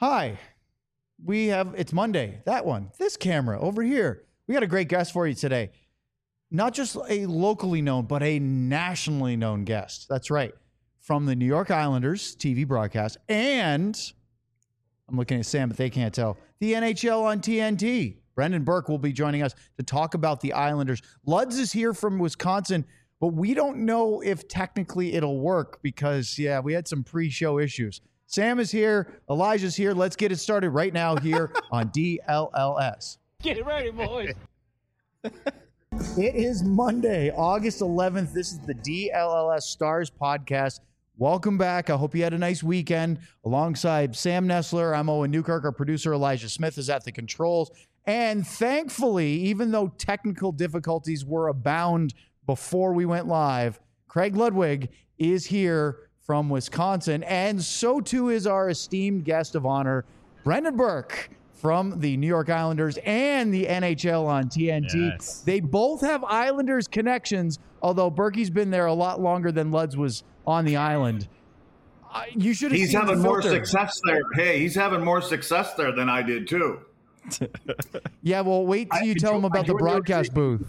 Hi. It's Monday. That one. This camera over here. We got a great guest for you today. Not just a locally known, but a nationally known guest. That's right. From the New York Islanders TV broadcast. And I'm looking at Sam, but they can't tell. The NHL on TNT. Brendan Burke will be joining us to talk about the Islanders. Luds is here from Wisconsin, but we don't know if technically it'll work because, we had some pre-show issues. Sam is here. Elijah's here. Let's get it started right now here on DLLS. Get it ready, boys. It is Monday, August 11th. This is the DLLS Stars podcast. Welcome back. I hope you had a nice weekend. Alongside Sam Nestler, I'm Owen Newkirk. Our producer, Elijah Smith, is at the controls. And thankfully, even though technical difficulties were abound before we went live, Craig Ludwig is here from Wisconsin. And so too is our esteemed guest of honor, Brendan Burke, from the New York Islanders and the NHL on TNT. Yes. They both have Islanders connections, although Berkey's been there a lot longer than Luds was on the island. You should have He's seen having the more filter. success there. Hey, he's having more success there than I did too. Yeah, well, wait till you tell him about the broadcast booth.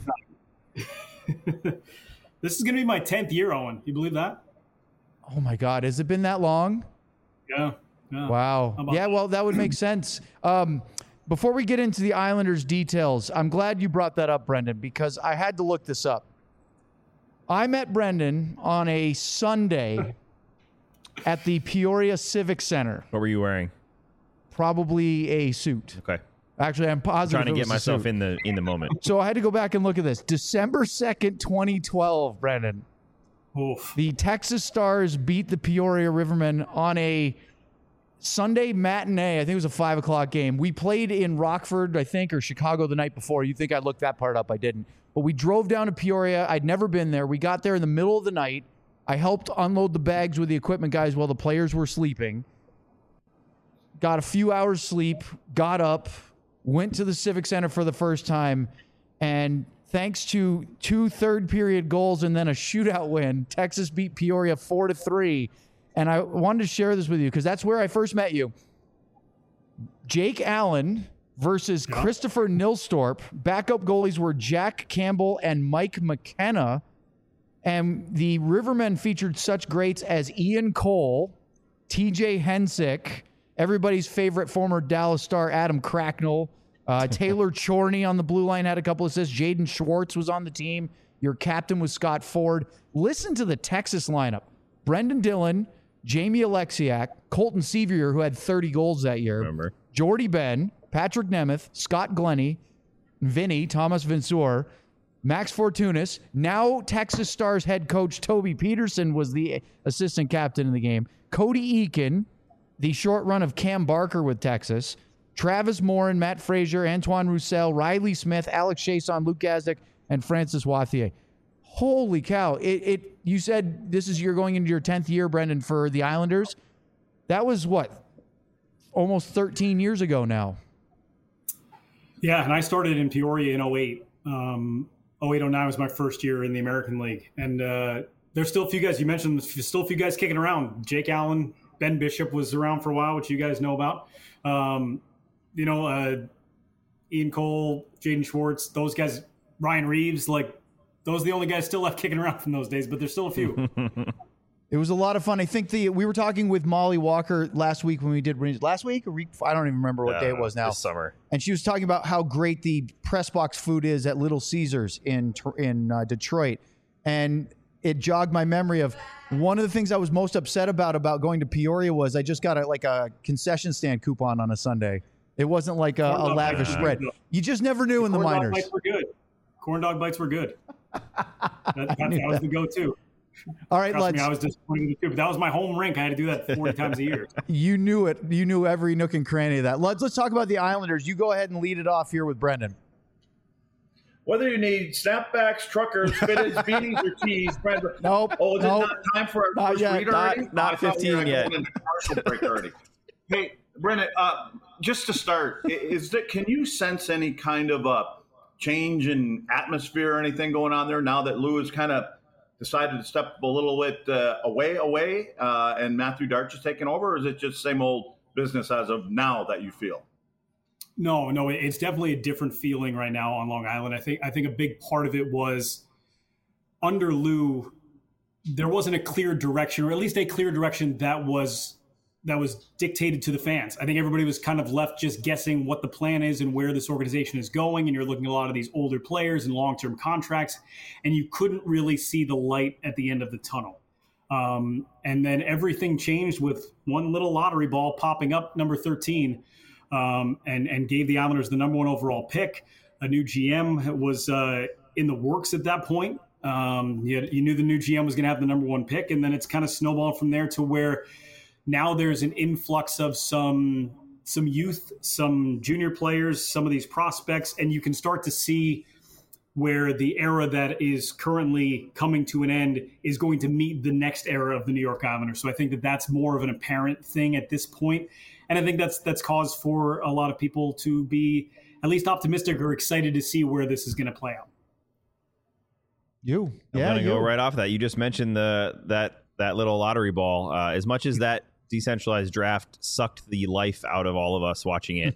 This is going to be my 10th year, Owen. You believe that? Oh, my God. Has it been that long? Yeah. Wow. Yeah, well, that would make sense. Before we get into the Islanders details, I'm glad you brought that up, Brendan, because I had to look this up. I met Brendan on a Sunday at the Peoria Civic Center. What were you wearing? Probably a suit. Okay. Actually, I'm positive. Trying to it get was a myself suit. in the moment. So I had to go back and look at this. December 2nd, 2012, Brendan. Oof. The Texas Stars beat the Peoria Rivermen on a Sunday matinee. I think it was a 5 o'clock game. We played in Rockford, I think, or Chicago the night before. You think I looked that part up. I didn't. But we drove down to Peoria. I'd never been there. We got there in the middle of the night. I helped unload the bags with the equipment guys while the players were sleeping. Got a few hours sleep, got up, went to the Civic Center for the first time, and thanks to 2 third-period goals and then a shootout win, Texas beat Peoria 4-3. And I wanted to share this with you because that's where I first met you. Jake Allen versus Christopher Nilstorp. Backup goalies were Jack Campbell and Mike McKenna. And the Rivermen featured such greats as Ian Cole, TJ Hensick, everybody's favorite former Dallas Star Adam Cracknell, Taylor Chorney on the blue line had a couple assists. Jaden Schwartz was on the team. Your captain was Scott Ford. Listen to the Texas lineup. Brendan Dillon, Jamie Alexiak, Colton Sevier, who had 30 goals that year. Remember. Jordy Ben, Patrick Nemeth, Scott Glennie, Vinny, Thomas Vinsor, Max Fortunas. Now Texas Stars head coach Toby Peterson was the assistant captain in the game. Cody Eakin, the short run of Cam Barker with Texas. Travis Morin, Matt Frazier, Antoine Roussel, Riley Smith, Alex Chason, Luke Gazdick, and Francis Wathier. Holy cow. You said you're going into your 10th year, Brendan, for the Islanders. That was what? Almost 13 years ago now. Yeah, and I started in Peoria in 08. 08-09 was my first year in the American League. And there's still a few guys, you mentioned, there's still a few guys kicking around. Jake Allen, Ben Bishop was around for a while, which you guys know about. Ian Cole, Jaden Schwartz, those guys, Ryan Reeves, those are the only guys still left kicking around from those days, but there's still a few. It was a lot of fun. I think we were talking with Molly Walker last week when we did last week or week. I don't even remember what day it was now. This summer. And she was talking about how great the press box food is at Little Caesars in Detroit. And it jogged my memory of one of the things I was most upset about going to Peoria was I just got a concession stand coupon on a Sunday. It wasn't like a lavish spread. You just never knew in the minors. Corn dog bites were good. That was the go-to. All right, Trust me, I was disappointed too, but that was my home rink. I had to do that 40 times a year. You knew it. You knew every nook and cranny of that. Let's talk about the Islanders. You go ahead and lead it off here with Brendan. Whether you need snapbacks, truckers, fitteds, beanies, or tees, Brendan. Nope. Oh, is it not time for our first yet. read already? Not 15 yet. Going into commercial break already. Hey, Brendan, just to start, can you sense any kind of a change in atmosphere or anything going on there now that Lou has kind of decided to step a little bit away, and Matthew Darch is taking over, or is it just same old business as of now that you feel? No, it's definitely a different feeling right now on Long Island. I think a big part of it was under Lou, there wasn't a clear direction, or at least a clear direction that was dictated to the fans. I think everybody was kind of left just guessing what the plan is and where this organization is going. And you're looking at a lot of these older players and long-term contracts, and you couldn't really see the light at the end of the tunnel. And then everything changed with one little lottery ball popping up, number 13, and gave the Islanders the number 1 overall pick. A new GM was in the works at that point. You knew the new GM was going to have the number 1 pick, and then it's kind of snowballed from there to where now there's an influx of some youth, some junior players, some of these prospects, and you can start to see where the era that is currently coming to an end is going to meet the next era of the New York Islanders. So I think that that's more of an apparent thing at this point. And I think that's cause for a lot of people to be at least optimistic or excited to see where this is going to play out. I'm going to go right off that. You just mentioned that little lottery ball. As much as that decentralized draft sucked the life out of all of us watching it,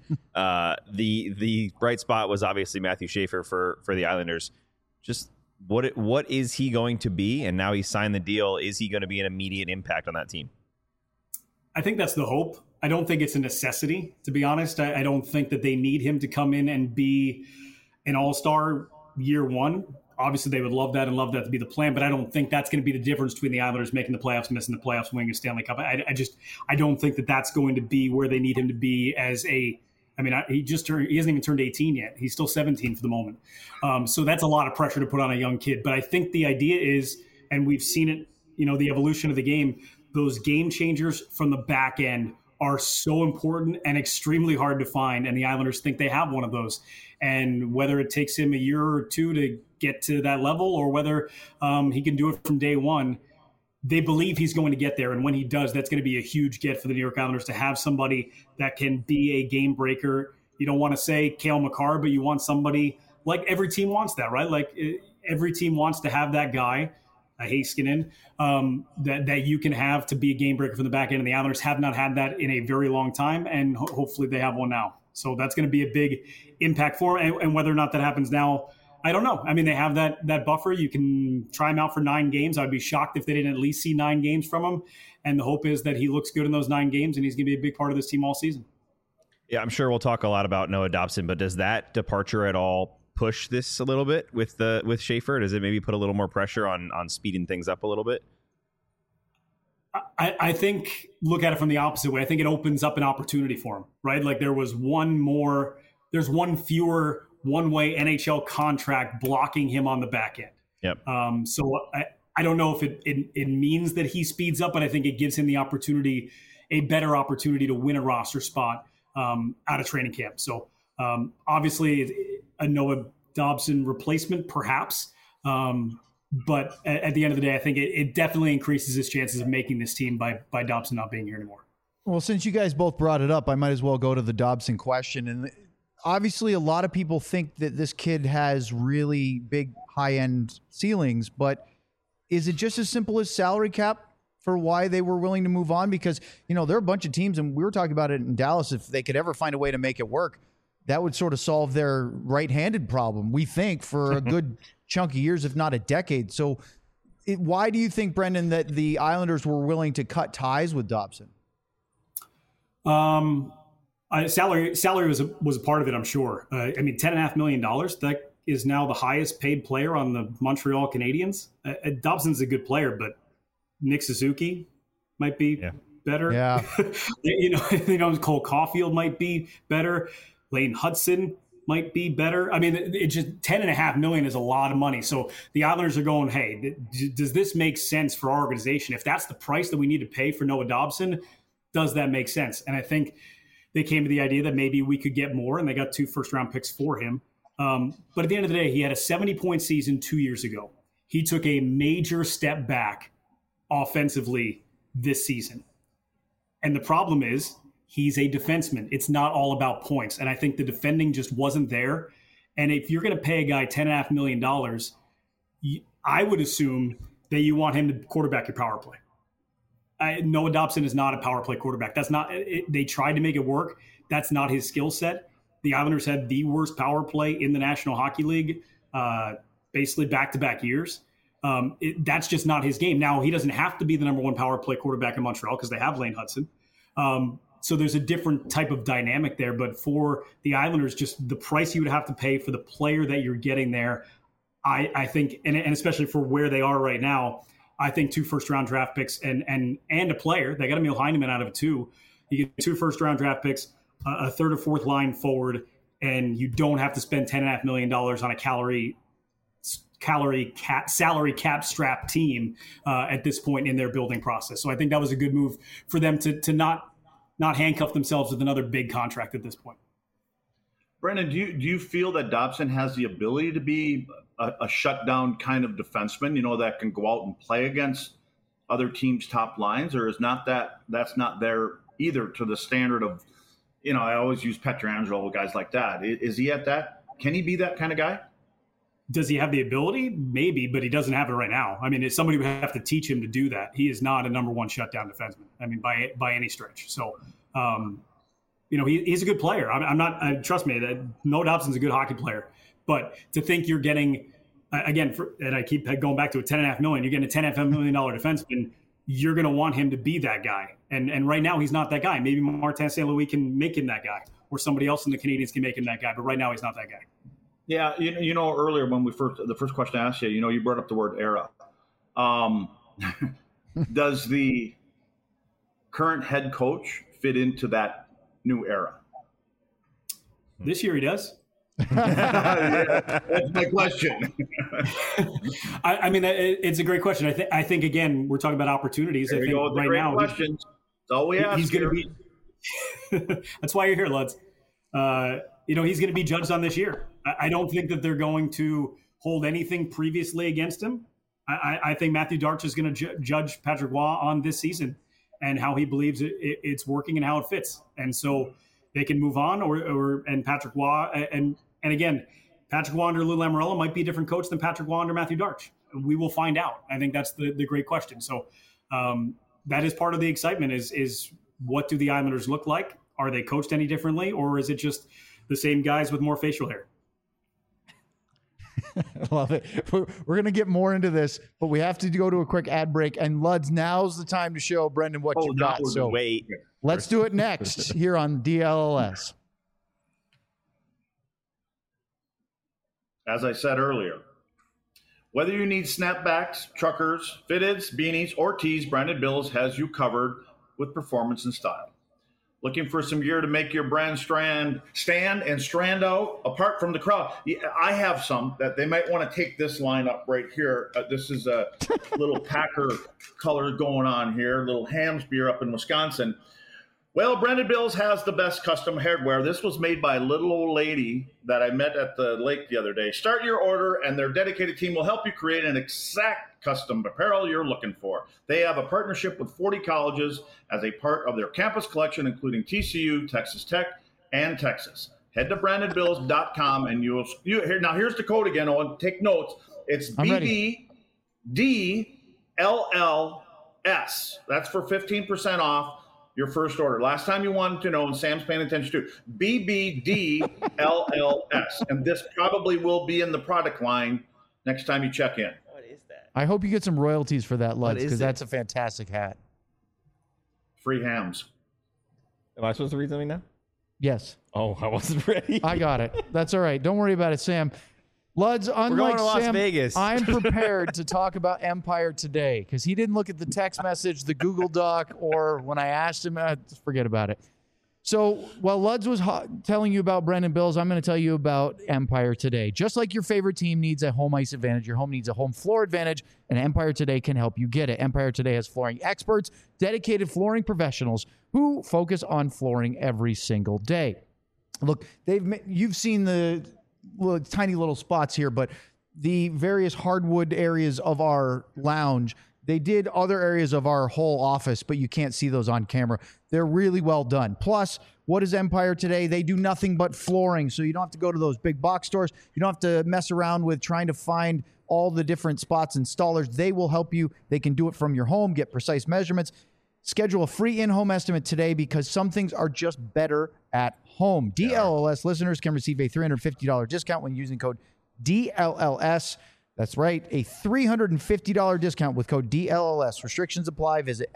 the bright spot was obviously Matthew Schaefer for the Islanders. Just what is he going to be? And now he's signed the deal. Is he going to be an immediate impact on that team? I think that's the hope. I don't think it's a necessity, to be honest. I don't think that they need him to come in and be an all-star year one. Obviously, they would love that and love that to be the plan, but I don't think that's going to be the difference between the Islanders making the playoffs, missing the playoffs, winning a Stanley Cup. I don't think that that's going to be where they need him to be as a. I mean, he hasn't even turned 18 yet. He's still 17 for the moment. So that's a lot of pressure to put on a young kid. But I think the idea is, and we've seen it, the evolution of the game, those game changers from the back end are so important and extremely hard to find. And the Islanders think they have one of those. And whether it takes him a year or two to get to that level, or whether he can do it from day one, they believe he's going to get there. And when he does, that's going to be a huge get for the New York Islanders to have somebody that can be a game breaker. You don't want to say Cale Makar, but you want somebody like every team wants that, right? Like every team wants to have that guy, a Heiskanen, that you can have to be a game breaker from the back end. And the Islanders have not had that in a very long time. And hopefully they have one now. So that's going to be a big impact for him. And whether or not that happens now, I don't know. I mean, they have that buffer. You can try him out for 9 games. I'd be shocked if they didn't at least see 9 games from him. And the hope is that he looks good in those 9 games and he's going to be a big part of this team all season. Yeah, I'm sure we'll talk a lot about Noah Dobson, but does that departure at all push this a little bit with Schaefer? Does it maybe put a little more pressure on speeding things up a little bit? I think look at it from the opposite way. I think it opens up an opportunity for him, right? Like there's one fewer one-way NHL contract blocking him on the back end. Yep. So I don't know if it means that he speeds up, but I think it gives him the opportunity, a better opportunity to win a roster spot out of training camp. So obviously a Noah Dobson replacement, perhaps. But at the end of the day, I think it definitely increases his chances of making this team by Dobson not being here anymore. Well, since you guys both brought it up, I might as well go to the Dobson question. And obviously, a lot of people think that this kid has really big high-end ceilings, but is it just as simple as salary cap for why they were willing to move on? Because, there are a bunch of teams, and we were talking about it in Dallas, if they could ever find a way to make it work, that would sort of solve their right-handed problem, we think, for a good chunk of years, if not a decade. So why do you think, Brendan, that the Islanders were willing to cut ties with Dobson? Salary was a part of it, I'm sure. $10.5 million, that is now the highest paid player on the Montreal Canadiens. Dobson's a good player, but Nick Suzuki might be better. Yeah. Cole Caulfield might be better. Lane Hudson might be better. I mean, it's just $10.5 million is a lot of money. So the Islanders are going, hey, does this make sense for our organization? If that's the price that we need to pay for Noah Dobson, does that make sense? And I think they came to the idea that maybe we could get more, and they got 2 first-round picks for him. But at the end of the day, he had a 70-point season 2 years ago. He took a major step back offensively this season. And the problem is he's a defenseman. It's not all about points. And I think the defending just wasn't there. And if you're going to pay a guy $10.5 million, I would assume that you want him to quarterback your power play. Noah Dobson is not a power play quarterback. That's not. They tried to make it work. That's not his skill set. The Islanders had the worst power play in the National Hockey League, basically back-to-back years. That's just not his game. Now, he doesn't have to be the number one power play quarterback in Montreal because they have Lane Hudson. So there's a different type of dynamic there. But for the Islanders, just the price you would have to pay for the player that you're getting there, I think, and especially for where they are right now, I think 2 first-round draft picks and a player. They got Emil Heineman out of it too. You get 2 first-round draft picks, a third or fourth line forward, and you don't have to spend $10.5 million on a salary cap strap team at this point in their building process. So I think that was a good move for them to not handcuff themselves with another big contract at this point. Brendan, do you feel that Dobson has the ability to be a shutdown kind of defenseman, that can go out and play against other teams' top lines, or is that's not there either to the standard of, I always use Pietrangelo, guys like that. Is he at that? Can he be that kind of guy? Does he have the ability? Maybe, but he doesn't have it right now. I mean, somebody would have to teach him to do that. He is not a number one shutdown defenseman. I mean, by any stretch. So, he's a good player. I'm not. Trust me, Noah Dobson's a good hockey player. But to think you're getting, and I keep going back to $10.5 million, you're getting a $10.5 million defenseman. You're going to want him to be that guy. And right now he's not that guy. Maybe Martin St. Louis can make him that guy, or somebody else in the Canadiens can make him that guy. But right now he's not that guy. Yeah, earlier when the first question I asked you, you brought up the word era. Does the current head coach fit into that new era? This year he does. That's my question. I mean, it's a great question. I think again, we're talking about opportunities. There I think go, right now, questions. That's all we ask. He's going to be. That's why you're here, Luds. He's going to be judged on this year. I don't think that they're going to hold anything previously against him. I think Matthew Darch is going to judge Patrick Roy on this season and how he believes it's working and how it fits. And so they can move on, and Patrick Roy and again, Patrick Roy under Lou Lamoriello might be a different coach than Patrick Roy under Matthew Darch. We will find out. I think that's the great question. So that is part of the excitement is what do the Islanders look like? Are they coached any differently, or is it just the same guys with more facial hair? I love it. We're going to get more into this, but we have to go to a quick ad break. And Luds, now's the time to show Brendan what you got. So wait. Let's do it next here on DLLS. As I said earlier, whether you need snapbacks, truckers, fitteds, beanies, or tees, Branded Bills has you covered with performance and style. Looking for some gear to make your brand stand and strand out apart from the crowd? Yeah, I have some that they might want to take this line up right here. This is a little Packer color going on here, little Hams beer up in Wisconsin. Well, Branded Bills has the best custom hardware. This was made by a little old lady that I met at the lake the other day. Start your order, and their dedicated team will help you create an exact custom apparel you're looking for. They have a partnership with 40 colleges as a part of their campus collection, including TCU, Texas Tech, and Texas. Head to brandedbills.com, and now here's the code again, Owen. Take notes. It's BBDLLS. That's for 15% off your first order. Last time you wanted to know, and Sam's paying attention to, BBDLLS. And this probably will be in the product line next time you check in. What is that? I hope you get some royalties for that, Luds, because that's a fantastic hat. Free hams. Am I supposed to read something now? Yes. Oh, I wasn't ready. I got it. That's all right. Don't worry about it, Sam. Luds, unlike Las Sam, Vegas. I'm prepared to talk about Empire today because he didn't look at the text message, the Google Doc, or when I asked him, forget about it. So while Luds was telling you about Branded Bills, I'm going to tell you about Empire Today. Just like your favorite team needs a home ice advantage, your home needs a home floor advantage, and Empire Today can help you get it. Empire Today has flooring experts, dedicated flooring professionals who focus on flooring every single day. Look, you've seen the tiny little spots here, but the various hardwood areas of our lounge, they did other areas of our whole office, but you can't see those on camera. They're really well done. Plus, what is Empire Today? They do nothing but flooring, so you don't have to go to those big box stores. You don't have to mess around with trying to find all the different spots installers. They will help you. They can do it from your home, get precise measurements. Schedule a free in-home estimate today because some things are just better at home. DLLS listeners can receive a $350 discount when using code DLLS. That's right, a $350 discount with code DLLS. Restrictions apply. Visit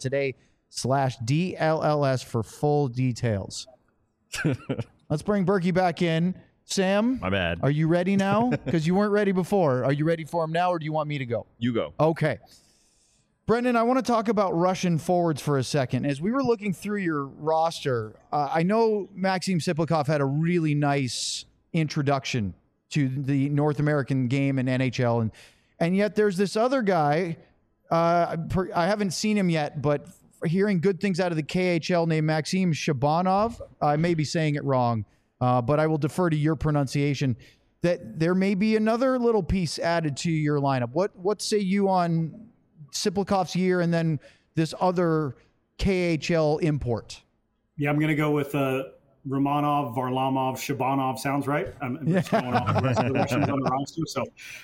EmpireToday.com/DLLS for full details. Let's bring Berkey back in. Sam, my bad. Are you ready now? Because you weren't ready before. Are you ready for him now, or do you want me to go? You go. Okay. Brendan, I want to talk about Russian forwards for a second. As we were looking through your roster, I know Maxim Siplikov had a really nice introduction to the North American game and NHL, and yet there's this other guy. I haven't seen him yet, but hearing good things out of the KHL named Maxim Shabanov. I may be saying it wrong, but I will defer to your pronunciation. That there may be another little piece added to your lineup. What say you on Siplikov's year and then this other KHL import? Yeah, I'm going to go with Romanov, Varlamov, Shabanov. Sounds right. I'm just going off the rest of the Russians on the roster. So,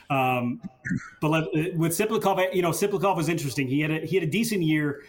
but with Siplikov, Siplikov was interesting. He had a decent year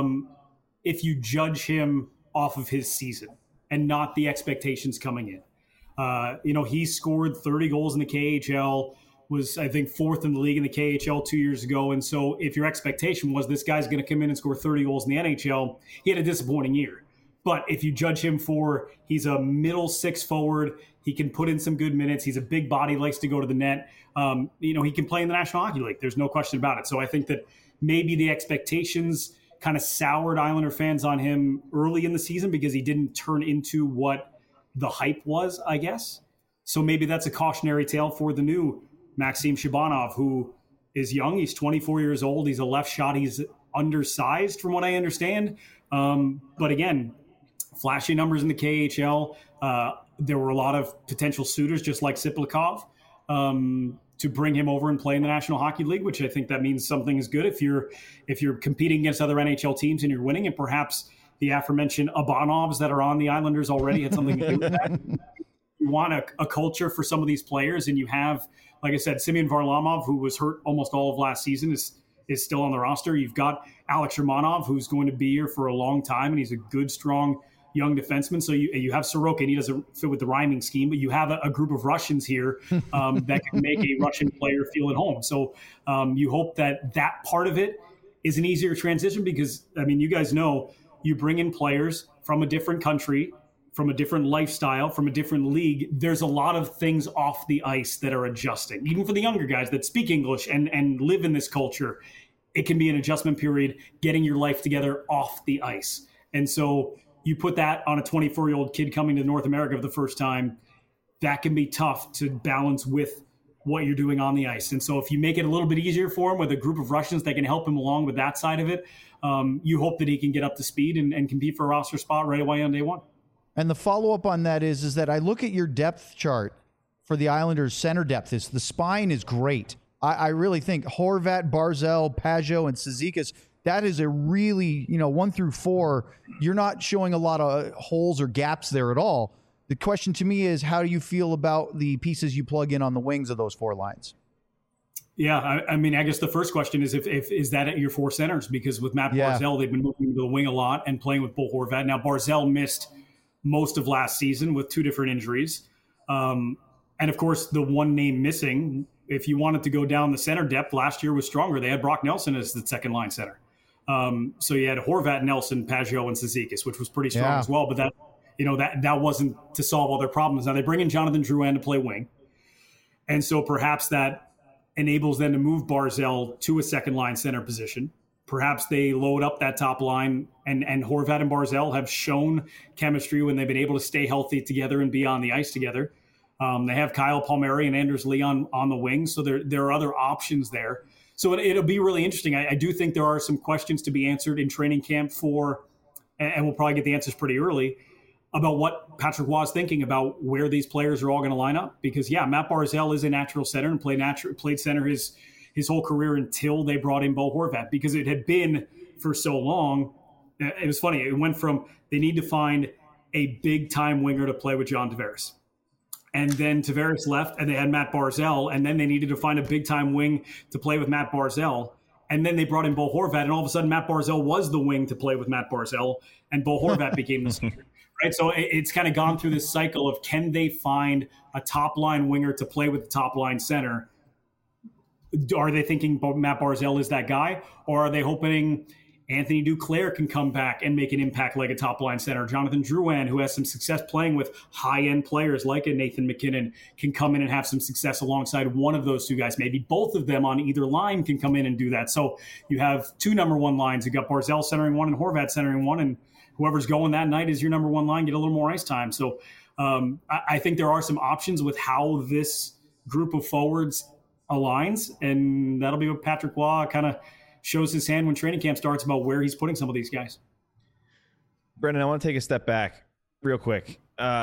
if you judge him off of his season and not the expectations coming in. He scored 30 goals in the KHL. Was, I think, 4th in the league in the KHL 2 years ago. And so if your expectation was this guy's going to come in and score 30 goals in the NHL, he had a disappointing year. But if you judge him for he's a middle six forward, he can put in some good minutes. He's a big body, likes to go to the net. He can play in the National Hockey League. There's no question about it. So I think that maybe the expectations kind of soured Islander fans on him early in the season because he didn't turn into what the hype was, I guess. So maybe that's a cautionary tale for the new Maxim Shabanov, who is young. He's 24 years old. He's a left shot. He's undersized from what I understand. But again, flashy numbers in the KHL. There were a lot of potential suitors, just like Siplikov, to bring him over and play in the National Hockey League, which I think that means something is good if you're competing against other NHL teams and you're winning, and perhaps the aforementioned Abanovs that are on the Islanders already had something to do with that. You want a culture for some of these players, and you have, like I said, Semyon Varlamov, who was hurt almost all of last season, is still on the roster. You've got Alex Romanov, who's going to be here for a long time, and he's a good, strong, young defenseman. So you have Sorokin. He doesn't fit with the rhyming scheme, but you have a group of Russians here that can make a Russian player feel at home. So you hope that part of it is an easier transition because, you guys know, you bring in players from a different country, from a different lifestyle, from a different league. There's a lot of things off the ice that are adjusting. Even for the younger guys that speak English and live in this culture, it can be an adjustment period, getting your life together off the ice. And so you put that on a 24-year-old kid coming to North America for the first time, that can be tough to balance with what you're doing on the ice. And so if you make it a little bit easier for him with a group of Russians that can help him along with that side of it, you hope that he can get up to speed and compete for a roster spot right away on day one. And the follow-up on that is that I look at your depth chart for the Islanders' center depth. The spine is great. I really think Horvat, Barzal, Pajot, and Cizikas, that is a really, 1 through 4, you're not showing a lot of holes or gaps there at all. The question to me is, how do you feel about the pieces you plug in on the wings of those 4 lines? Yeah, I guess the first question is if is that at your 4 centers? Because with Matt Barzal, they've been moving to the wing a lot and playing with Bo Horvat. Now, Barzal missed most of last season with 2 different injuries. And, of course, the one name missing, if you wanted to go down the center depth, last year was stronger. They had Brock Nelson as the second-line center. So you had Horvat, Nelson, Pajot, and Cizikas, which was pretty strong as well. But that wasn't to solve all their problems. Now, they bring in Jonathan Drouin to play wing. And so perhaps that enables them to move Barzal to a second-line center position. Perhaps they load up that top line, and Horvat and Barzal have shown chemistry when they've been able to stay healthy together and be on the ice together. They have Kyle Palmieri and Anders Lee on the wing, so there are other options there. So it'll be really interesting. I do think there are some questions to be answered in training camp and we'll probably get the answers pretty early, about what Patrick Roy is thinking about where these players are all going to line up. Because, Matt Barzal is a natural center and played center his whole career until they brought in Bo Horvat, because it had been for so long. It was funny. It went from they need to find a big-time winger to play with John Tavares. And then Tavares left, and they had Matt Barzal, and then they needed to find a big-time wing to play with Matt Barzal. And then they brought in Bo Horvat, and all of a sudden Matt Barzal was the wing to play with Matt Barzal, and Bo Horvat became the center. Right, so it's kind of gone through this cycle of, can they find a top-line winger to play with the top-line center? Are they thinking Matt Barzal is that guy, or are they hoping Anthony Duclair can come back and make an impact like a top-line center? Jonathan Drouin, who has some success playing with high-end players like a Nathan McKinnon, can come in and have some success alongside one of those two guys. Maybe both of them on either line can come in and do that. So you have two number one lines. You've got Barzal centering one and Horvat centering one, and whoever's going that night is your number one line, get a little more ice time. So I think there are some options with how this group of forwards aligns, and that'll be what Patrick Roy kind of shows his hand when training camp starts about where he's putting some of these guys. Brendan, I want to take a step back real quick.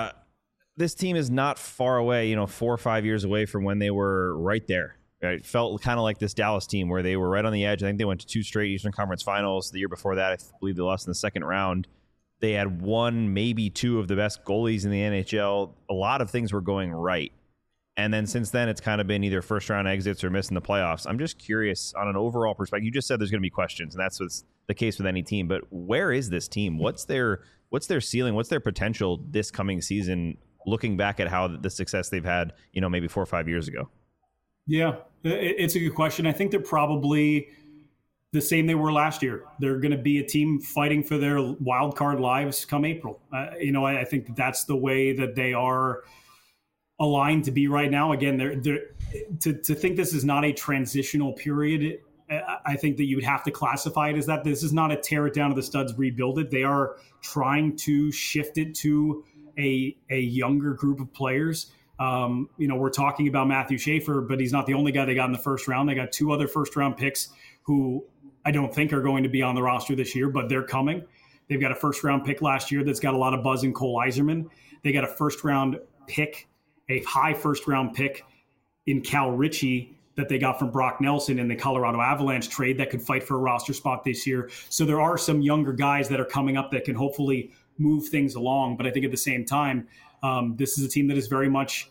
This team is not far away, 4 or 5 years away from when they were right there. Right? It felt kind of like this Dallas team where they were right on the edge. I think they went to 2 straight Eastern Conference Finals. The year before that, I believe they lost in the second round. They had 1, maybe 2 of the best goalies in the NHL. A lot of things were going right. And then since then, it's kind of been either first-round exits or missing the playoffs. I'm just curious on an overall perspective. You just said there's going to be questions, and that's what's the case with any team. But where is this team? What's their ceiling? What's their potential this coming season, looking back at how the success they've had, maybe 4 or 5 years ago? Yeah, it's a good question. I think they're probably the same they were last year. They're going to be a team fighting for their wild card lives come April. I think that's the way that they are aligned to be right now. Again, to think this is not a transitional period, I think that you would have to classify it as that. This is not a tear it down to the studs, rebuild it. They are trying to shift it to a younger group of players. We're talking about Matthew Schaefer, but he's not the only guy they got in the first round. They got 2 other first round picks who I don't think are going to be on the roster this year, but they're coming. They've got a first round pick last year that's got a lot of buzz in Cole Yzerman. They got a first round pick, a high first round pick in Cal Ritchie that they got from Brock Nelson in the Colorado Avalanche trade that could fight for a roster spot this year. So there are some younger guys that are coming up that can hopefully move things along. But I think at the same time, this is a team that is very much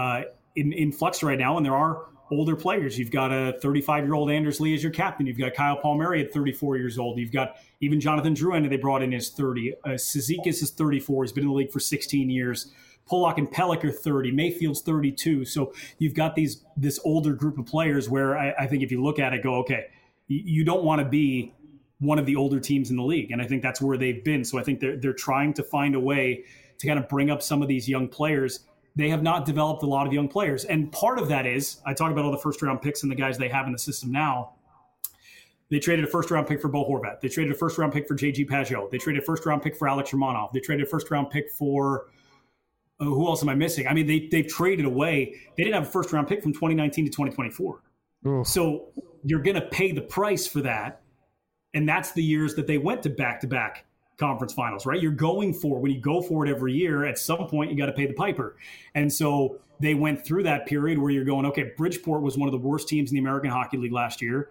in flux right now, and there are older players. You've got a 35-year-old Anders Lee as your captain. You've got Kyle Palmieri at 34 years old. You've got even Jonathan Drouin that they brought in is 30. Cizikas is 34. He's been in the league for 16 years. Pollock and Pelech are 30. Mayfield's 32. So you've got this older group of players where I think if you look at it, go, okay, you don't want to be one of the older teams in the league. And I think that's where they've been. So I think they're trying to find a way to kind of bring up some of these young players. They have not developed a lot of young players. And part of that is, I talk about all the first-round picks and the guys they have in the system now. They traded a first-round pick for Bo Horvat. They traded a first-round pick for J.G. Pageau. They traded a first-round pick for Alex Romanov. They traded a first-round pick for who else am I missing? I mean, they've traded away. They didn't have a first-round pick from 2019 to 2024. Ooh. So you're going to pay the price for that. And that's the years that they went to back-to-back conference finals, right? When you go for it every year, at some point you got to pay the piper. And so they went through that period where you're going, okay, Bridgeport was one of the worst teams in the American Hockey League last year.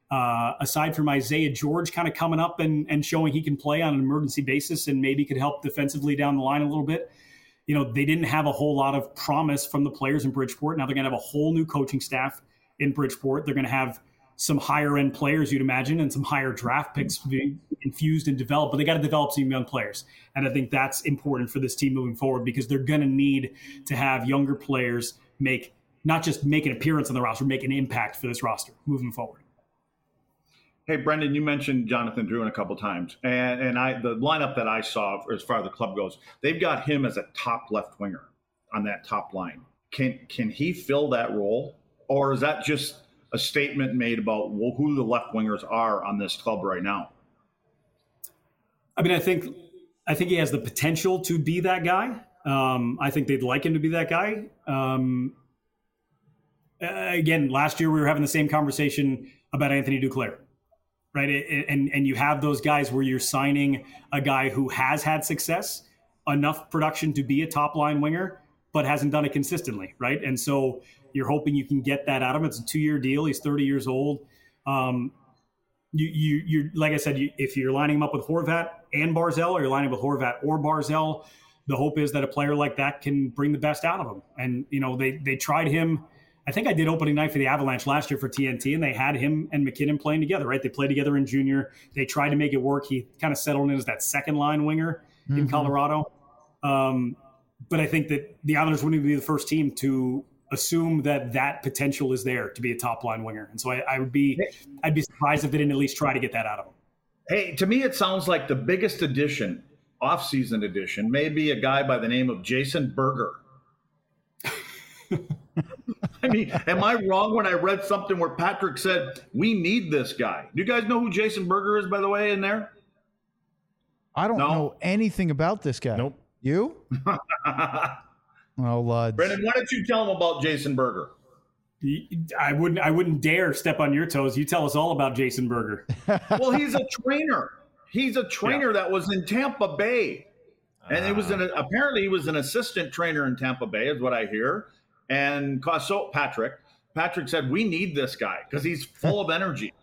Aside from Isaiah George kind of coming up and showing he can play on an emergency basis and maybe could help defensively down the line a little bit, they didn't have a whole lot of promise from the players in Bridgeport. Now they're going to have a whole new coaching staff in Bridgeport. They're going to have some higher end players, you'd imagine, and some higher draft picks being infused and developed, but they got to develop some young players. And I think that's important for this team moving forward because they're going to need to have younger players not just make an appearance on the roster, make an impact for this roster moving forward. Hey, Brendan, you mentioned Jonathan Drouin a couple times, and the lineup that I saw as far as the club goes, they've got him as a top left winger on that top line. Can he fill that role, or is that just a statement made about who the left wingers are on this club right now? I mean, I think he has the potential to be that guy. I think they'd like him to be that guy. Again, last year we were having the same conversation about Anthony Duclair, right? And you have those guys where you're signing a guy who has had success, enough production to be a top line winger, but hasn't done it consistently, right? And so you're hoping you can get that out of him. It's a 2-year deal. He's 30 years old. You like I said, if you're lining him up with Horvat and Barzal, or you're lining up with Horvat or Barzal, the hope is that a player like that can bring the best out of him. And they tried him I think I did opening night for the Avalanche last year for TNT, and they had him and McKinnon playing together, right? They played together in junior. They tried to make it work. He kind of settled in as that second line winger in Colorado. But I think that the Islanders wouldn't be the first team to assume that potential is there to be a top line winger. And so I'd be surprised if they didn't at least try to get that out of him. Hey, to me, it sounds like the biggest addition, off-season addition, may be a guy by the name of Jason Berger. I mean, am I wrong when I read something where Patrick said, we need this guy? Do you guys know who Jason Berger is, by the way, in there? I don't know anything about this guy. Nope. You? Oh, Luds. Brendan, why don't you tell him about Jason Berger? I wouldn't dare step on your toes. You tell us all about Jason Berger. Well, he's a trainer. He's a trainer that was in Tampa Bay. And it was apparently he was an assistant trainer in Tampa Bay, is what I hear. And so Patrick said, we need this guy because he's full of energy.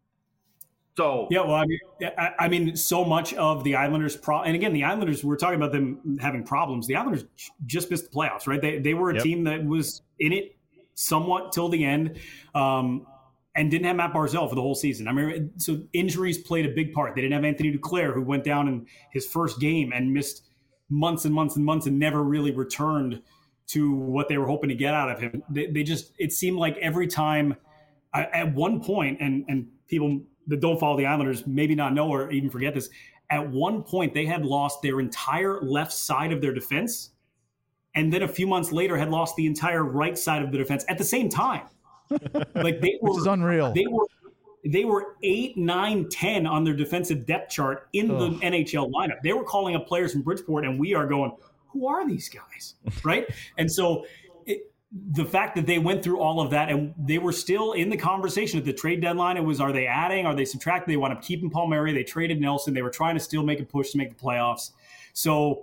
So yeah, well, I mean, so much of the Islanders' and again, the Islanders, we're talking about them having problems. The Islanders just missed the playoffs, right? They were a team that was in it somewhat till the end, and didn't have Matt Barzal for the whole season. I mean, so injuries played a big part. They didn't have Anthony Duclair, who went down in his first game and missed months and months and months and never really returned to what they were hoping to get out of him. They just, it seemed like every time at one point, and people that don't follow the Islanders maybe not know or even forget this, at one point they had lost their entire left side of their defense, and then a few months later had lost the entire right side of the defense at the same time. Like they were, which is unreal. They were 8, 9, 10 on their defensive depth chart in the NHL lineup. They were calling up players from Bridgeport, and we are going, who are these guys, right? And so the fact that they went through all of that and they were still in the conversation at the trade deadline, it was, are they adding, are they subtracting? They wound up keeping Palmieri. They traded Nelson. They were trying to still make a push to make the playoffs. So,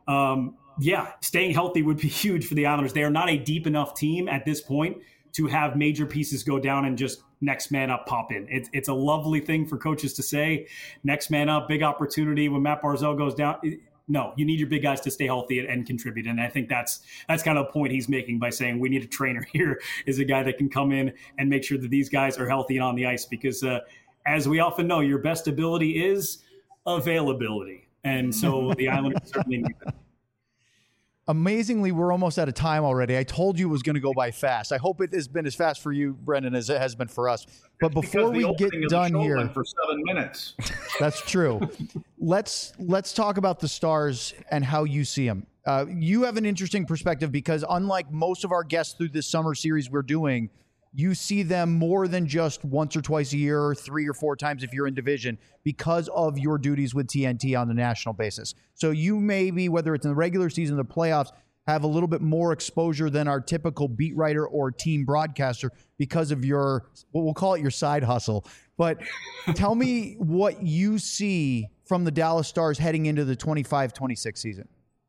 staying healthy would be huge for the Islanders. They are not a deep enough team at this point to have major pieces go down and just next man up pop in. It's a lovely thing for coaches to say, next man up, big opportunity when Matt Barzal goes down. No, you need your big guys to stay healthy and contribute. And I think that's kind of the point he's making by saying we need a trainer here, is a guy that can come in and make sure that these guys are healthy and on the ice. Because as we often know, your best ability is availability. And so the Islanders certainly need that. Amazingly, we're almost out of time already. I told you it was going to go by fast. I hope it has been as fast for you, Brendan, as it has been for us. But before we get done here, for 7 minutes. That's true. Let's talk about the Stars and how you see them. You have an interesting perspective because unlike most of our guests through this summer series we're doing, you see them more than just once or twice a year, or 3 or 4 times if you're in division, because of your duties with TNT on the national basis. So you may be, whether it's in the regular season or the playoffs, have a little bit more exposure than our typical beat writer or team broadcaster because of your, we'll call it your side hustle. But tell me what you see from the Dallas Stars heading into the 25-26 season.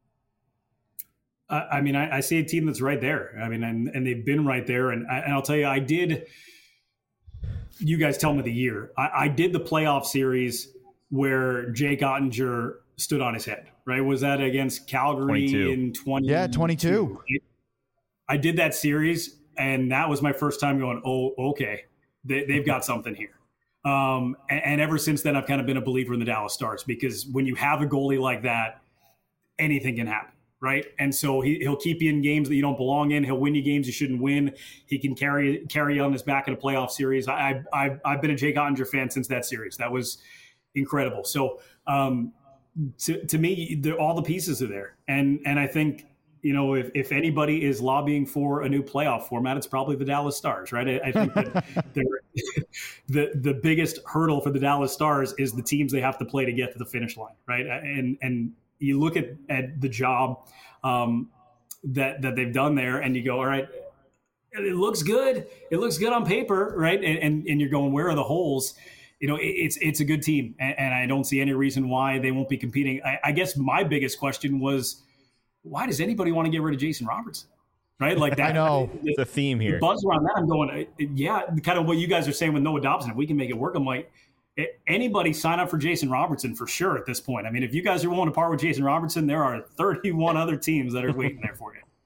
I mean, I see a team that's right there. I mean, and they've been right there. And I'll tell you, you guys tell me the year. I did the playoff series where Jake Ottinger stood on his head, right? Was that against Calgary 22. in 20? Yeah, 22. I did that series, and that was my first time going, oh, okay, they've got something here. And ever since then, I've kind of been a believer in the Dallas Stars, because when you have a goalie like that, anything can happen. Right. And so he'll keep you in games that you don't belong in. He'll win you games you shouldn't win. He can carry on his back in a playoff series. I've been a Jake Ottinger fan since that series. That was incredible. So to me, all the pieces are there. And I think, if anybody is lobbying for a new playoff format, it's probably the Dallas Stars. Right. I think that the biggest hurdle for the Dallas Stars is the teams they have to play to get to the finish line. Right. And you look at the job that they've done there, and you go, all right, it looks good. It looks good on paper, right? And you're going, where are the holes? It's a good team, and I don't see any reason why they won't be competing. I guess my biggest question was, why does anybody want to get rid of Jason Robertson? Right? Like that. I know. The theme here. The buzz around that, I'm going, kind of what you guys are saying with Noah Dobson. If we can make it work, I'm like, anybody sign up for Jason Robertson for sure at this point. I mean, if you guys are willing to part with Jason Robertson, there are 31 other teams that are waiting there for you.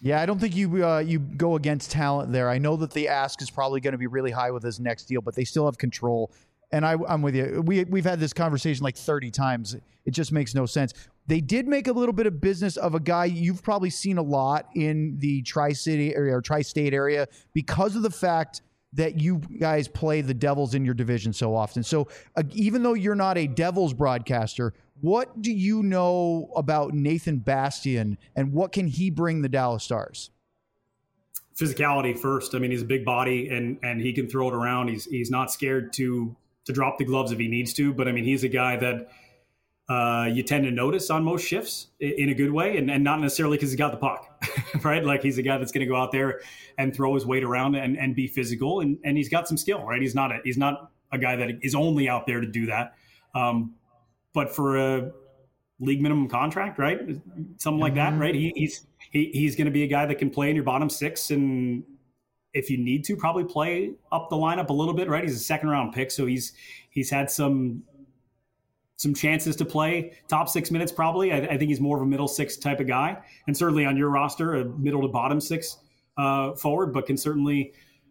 Yeah, I don't think you go against talent there. I know that the ask is probably going to be really high with his next deal, but they still have control. And I'm with you. We've had this conversation like 30 times. It just makes no sense. They did make a little bit of business of a guy you've probably seen a lot in the Tri-City area or Tri-State area because of the fact that you guys play the Devils in your division so often. So even though you're not a Devils broadcaster, what do you know about Nathan Bastian and what can he bring the Dallas Stars? Physicality first. I mean, he's a big body and he can throw it around. He's not scared to drop the gloves if he needs to. But I mean, he's a guy that you tend to notice on most shifts in a good way, and not necessarily because he got the puck, right? Like he's a guy that's going to go out there and throw his weight around and be physical, and he's got some skill, right? He's not a guy that is only out there to do that. But for a league minimum contract, right? Something like that, right? He's going to be a guy that can play in your bottom six, and if you need to, probably play up the lineup a little bit, right? He's a second round pick, so he's had some chances to play top 6 minutes probably. I think he's more of a middle six type of guy, and certainly on your roster, a middle to bottom six forward, but can certainly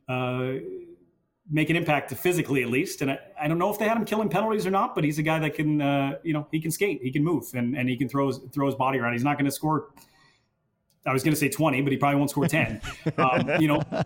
make an impact physically at least. And I don't know if they had him killing penalties or not, but he's a guy that can, he can skate, he can move, and he can throw his body around. He's not going to score. I was going to say 20, but he probably won't score 10. But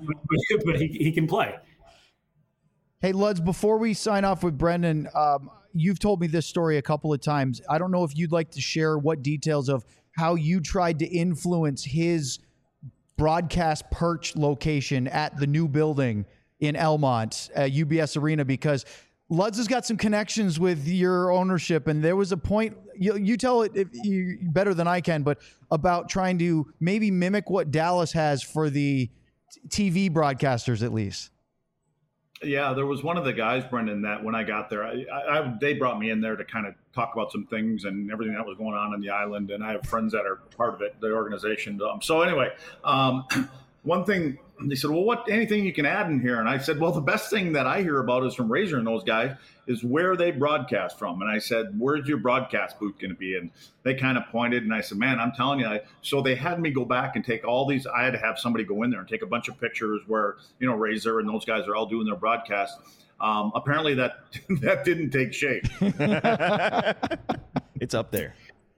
he can play. Hey, Luds, before we sign off with Brendan, you've told me this story a couple of times. I don't know if you'd like to share what details of how you tried to influence his broadcast perch location at the new building in Elmont at UBS Arena, because Luds has got some connections with your ownership, and there was a point, you tell it better than I can, but about trying to maybe mimic what Dallas has for the TV broadcasters at least. Yeah, there was one of the guys, Brendan, that when I got there, they brought me in there to kind of talk about some things and everything that was going on the island, and I have friends that are part of it, the organization. So anyway, one thing, they said, well, anything you can add in here? And I said, well, the best thing that I hear about is from Razor and those guys is where they broadcast from. And I said, where's your broadcast booth going to be? And they kind of pointed, and I said, man, I'm telling you. So they had me go back and take all these. I had to have somebody go in there and take a bunch of pictures where, Razor and those guys are all doing their broadcast. Apparently that didn't take shape. It's up there.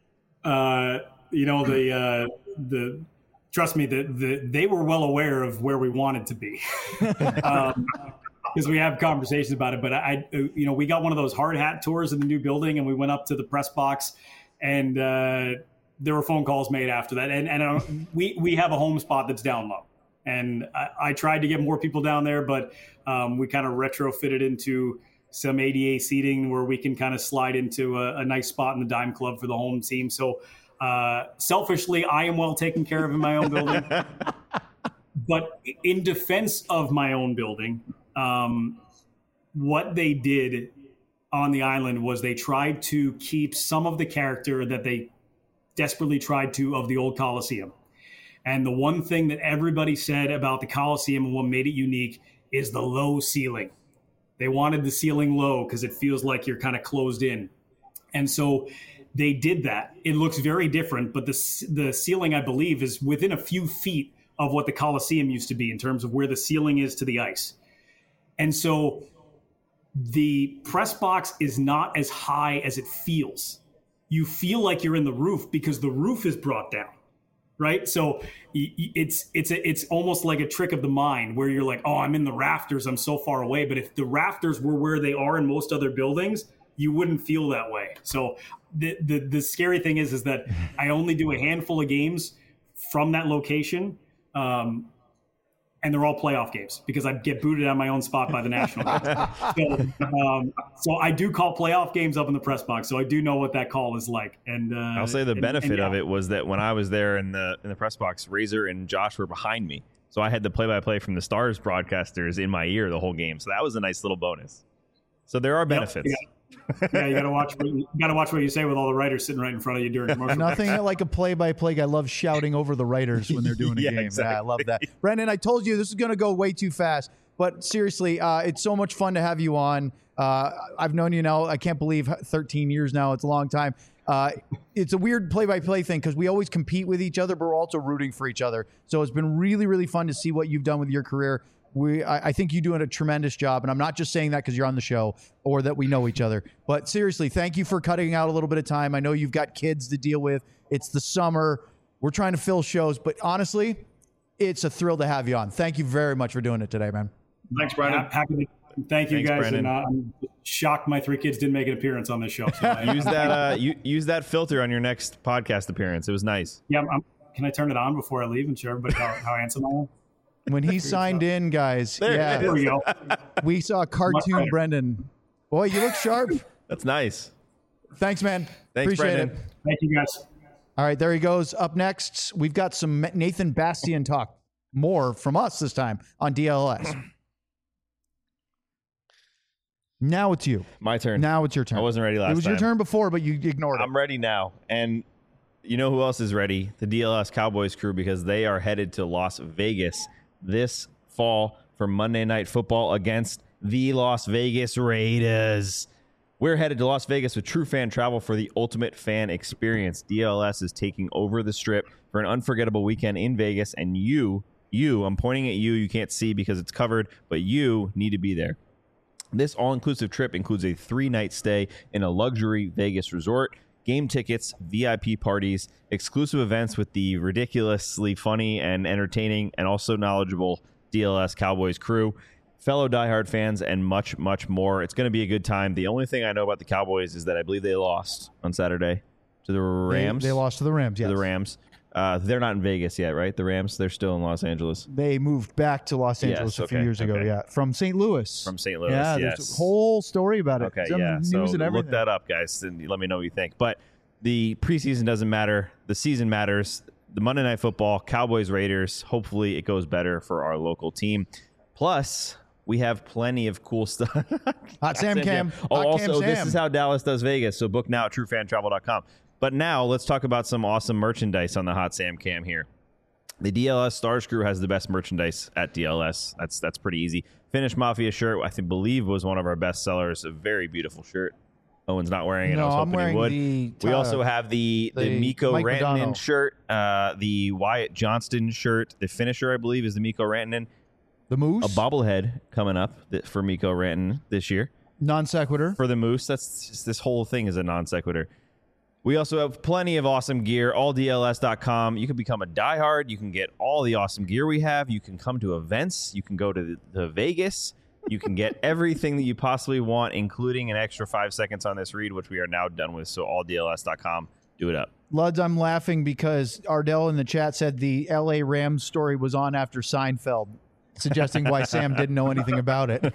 Trust me, they were well aware of where we wanted to be, because we have conversations about it. But we got one of those hard hat tours in the new building, and we went up to the press box, and there were phone calls made after that. And we have a home spot that's down low, and I tried to get more people down there, but we kind of retrofitted into some ADA seating where we can kind of slide into a nice spot in the Dime Club for the home team. So. Selfishly, I am well taken care of in my own building. But in defense of my own building, what they did on the island was they tried to keep some of the character that they desperately tried to of the old Coliseum. And the one thing that everybody said about the Coliseum and what made it unique is the low ceiling. They wanted the ceiling low because it feels like you're kind of closed in. And so they did that. It looks very different, but the ceiling, I believe, is within a few feet of what the Coliseum used to be in terms of where the ceiling is to the ice. And so the press box is not as high as it feels. You feel like you're in the roof because the roof is brought down, right? So it's almost like a trick of the mind where you're like, oh, I'm in the rafters, I'm so far away. But if the rafters were where they are in most other buildings, you wouldn't feel that way. So the scary thing is that I only do a handful of games from that location, and they're all playoff games because I get booted out of my own spot by the National Guard. So I do call playoff games up in the press box, so I do know what that call is like. And I'll say the benefit of it was that when I was there in the press box, Razor and Josh were behind me, so I had the play-by-play from the Stars broadcasters in my ear the whole game. So that was a nice little bonus. So there are benefits. Yep, yeah. Yeah, you gotta watch what you say with all the writers sitting right in front of you during commercial. Nothing like a play-by-play guy. Loves shouting over the writers when they're doing a game. Exactly. Yeah, I love that. Brendan, I told you this is going to go way too fast, but seriously, it's so much fun to have you on. I've known you now, I can't believe 13 years now. It's a long time. It's a weird play-by-play thing because we always compete with each other, but we're also rooting for each other. So it's been really, really fun to see what you've done with your career. I think you're doing a tremendous job, and I'm not just saying that because you're on the show or that we know each other. But seriously, thank you for cutting out a little bit of time. I know you've got kids to deal with. It's the summer. We're trying to fill shows, but honestly, it's a thrill to have you on. Thank you very much for doing it today, man. Thanks, Brandon. Thank you, Thanks, guys. Brandon. And I'm shocked my 3 kids didn't make an appearance on this show. So Use that filter on your next podcast appearance. It was nice. Yeah, can I turn it on before I leave and show everybody how handsome I am? When he signed in, guys, There we go. we saw cartoon Brendan. Boy, you look sharp. That's nice. Thanks, man. Thanks, Appreciate Brendan. it. Thank you, guys. All right, there he goes. Up next, we've got some Nathan Bastian talk. More from us this time on DLS. Now it's you. My turn. Now it's your turn. I wasn't ready last time. It was your turn before, but you ignored it. I'm ready now. And you know who else is ready? The DLS Cowboys crew, because they are headed to Las Vegas this fall for Monday Night Football against the Las Vegas Raiders. We're headed to Las Vegas with True Fan Travel for the ultimate fan experience. DLS is taking over the Strip for an unforgettable weekend in Vegas, and you, I'm pointing at you can't see because it's covered, but you need to be there. This all-inclusive trip includes a 3-night stay in a luxury Vegas resort, game tickets, VIP parties, exclusive events with the ridiculously funny and entertaining and also knowledgeable DLS Cowboys crew, fellow diehard fans, and much, much more. It's going to be a good time. The only thing I know about the Cowboys is that I believe they lost on Saturday to the Rams. They lost to the Rams, yes. To the Rams. They're not in Vegas yet, right? The Rams, they're still in Los Angeles. They moved back to Los Angeles a few years ago, yeah. From St. Louis. From St. Louis, yeah. yes. There's a whole story about it. Okay, Some yeah. news So and everything. look that up, guys, and let me know what you think. But the preseason doesn't matter. The season matters. The Monday Night Football, Cowboys, Raiders, hopefully it goes better for our local team. Plus, we have plenty of cool stuff. Hot Sam Cam. Oh, Hot Cam also, this Sam. is how Dallas does Vegas. So book now at truefantravel.com. But now let's talk about some awesome merchandise on the Hot Sam Cam here. The DLS Stars crew has the best merchandise at DLS. That's pretty easy. Finnish Mafia shirt, I believe, was one of our best sellers. A very beautiful shirt. Owen's not wearing it. No, I was I'm hoping wearing he would. the We also have the Mikko Mike Rantanen Modano. shirt, the Wyatt Johnston shirt. The finisher, I believe, is the Mikko Rantanen. The Moose. A bobblehead coming up for Mikko Rantanen this year. Non sequitur. For the Moose. That's just, this whole thing is a non sequitur. We also have plenty of awesome gear, alldls.com. You can become a diehard. You can get all the awesome gear we have. You can come to events. You can go to the Vegas. You can get everything that you possibly want, including an extra 5 seconds on this read, which we are now done with. So alldls.com. Do it up. Luds, I'm laughing because Ardell in the chat said the LA Rams story was on after Seinfeld, suggesting why Sam didn't know anything about it.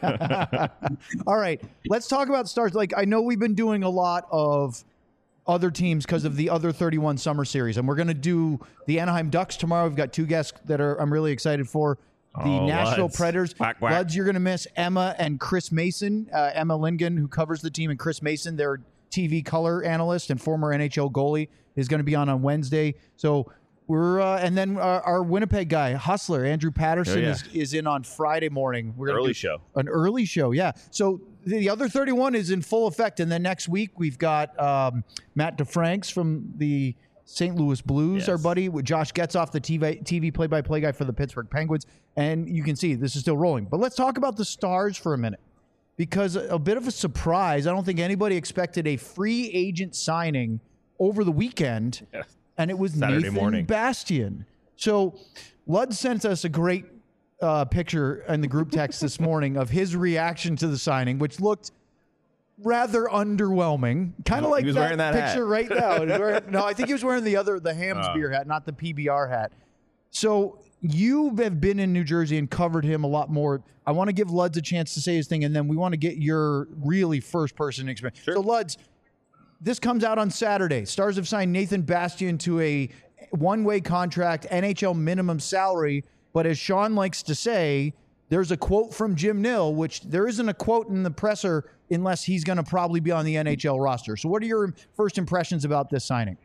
All right, let's talk about Stars. Like, I know we've been doing a lot of other teams because of the other 31 summer series, and we're going to do the Anaheim Ducks tomorrow. We've got 2 guests that I'm really excited for. The Nashville Luds. Predators. Whack, whack. Luds, you're going to miss Emma and Chris Mason. Emma Lingen, who covers the team, and Chris Mason, their TV color analyst and former NHL goalie, is going to be on Wednesday. So we're and then our Winnipeg guy, Hustler, Andrew Patterson, is in on Friday morning. We're gonna do an early show, yeah. So the other 31 is in full effect, and then next week we've got Matt DeFranks from the St. Louis Blues, our buddy, with Josh Getzoff, the TV play-by-play guy for the Pittsburgh Penguins, and you can see this is still rolling. But let's talk about the Stars for a minute, because a bit of a surprise. I don't think anybody expected a free agent signing over the weekend, and it was Saturday Nathan morning. Bastian. So Lud sent us a great picture in the group text this morning of his reaction to the signing, which looked rather underwhelming. Kind of like that wearing that picture hat. right now. No, I think he was wearing the Hams beer hat, not the PBR hat. So you have been in New Jersey and covered him a lot more. I want to give Luds a chance to say his thing, and then we want to get your really first-person experience. Sure. So, Luds, this comes out on Saturday. Stars have signed Nathan Bastian to a one-way contract, NHL minimum salary, but as Sean likes to say, there's a quote from Jim Nill, which there isn't a quote in the presser unless he's going to probably be on the NHL roster. So what are your first impressions about this signing?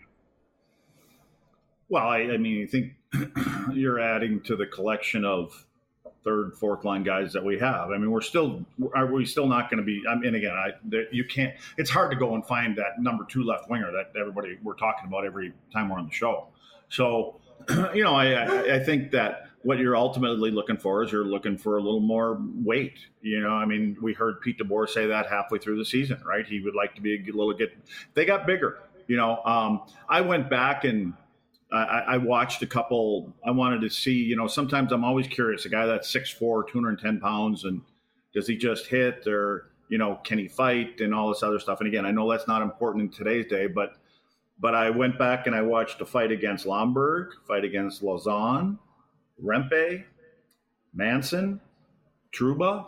Well, I mean, I think you're adding to the collection of third, fourth line guys that we have. I mean, are we still not going to be? I mean, again, you can't. It's hard to go and find that number 2 left winger that everybody we're talking about every time we're on the show. So, I think that what you're ultimately looking for is you're looking for a little more weight. I mean, we heard Pete DeBoer say that halfway through the season, right? He would like to be they got bigger. I went back and I watched a couple. I wanted to see, sometimes I'm always curious, a guy that's 6'4", 210 pounds, and does he just hit, or, can he fight and all this other stuff? And again, I know that's not important in today's day, but I went back and I watched a fight against Lomberg, fight against Lausanne, Rempe, Manson, Trouba.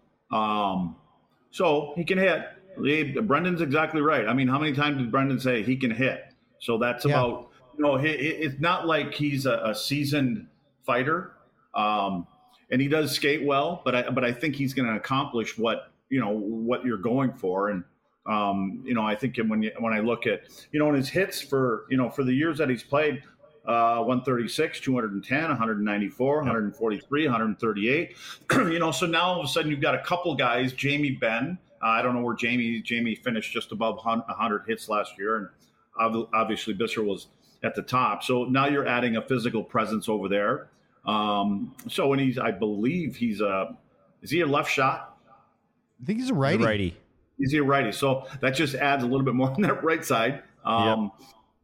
So he can hit. Brendan's exactly right. I mean, how many times did Brendan say he can hit? So that's about, it's not like he's a seasoned fighter, and he does skate well, but I think he's going to accomplish what you're going for. And, I think when I look at, in his hits for the years that he's played, 136, 210, 194, 143, 138. So now all of a sudden you've got a couple guys, Jamie Benn. I don't know where Jamie finished just above 100 hits last year. And obviously Bisser was at the top. So now you're adding a physical presence over there. And I believe is he a left shot? I think he's a righty. He's a righty. So that just adds a little bit more on that right side. But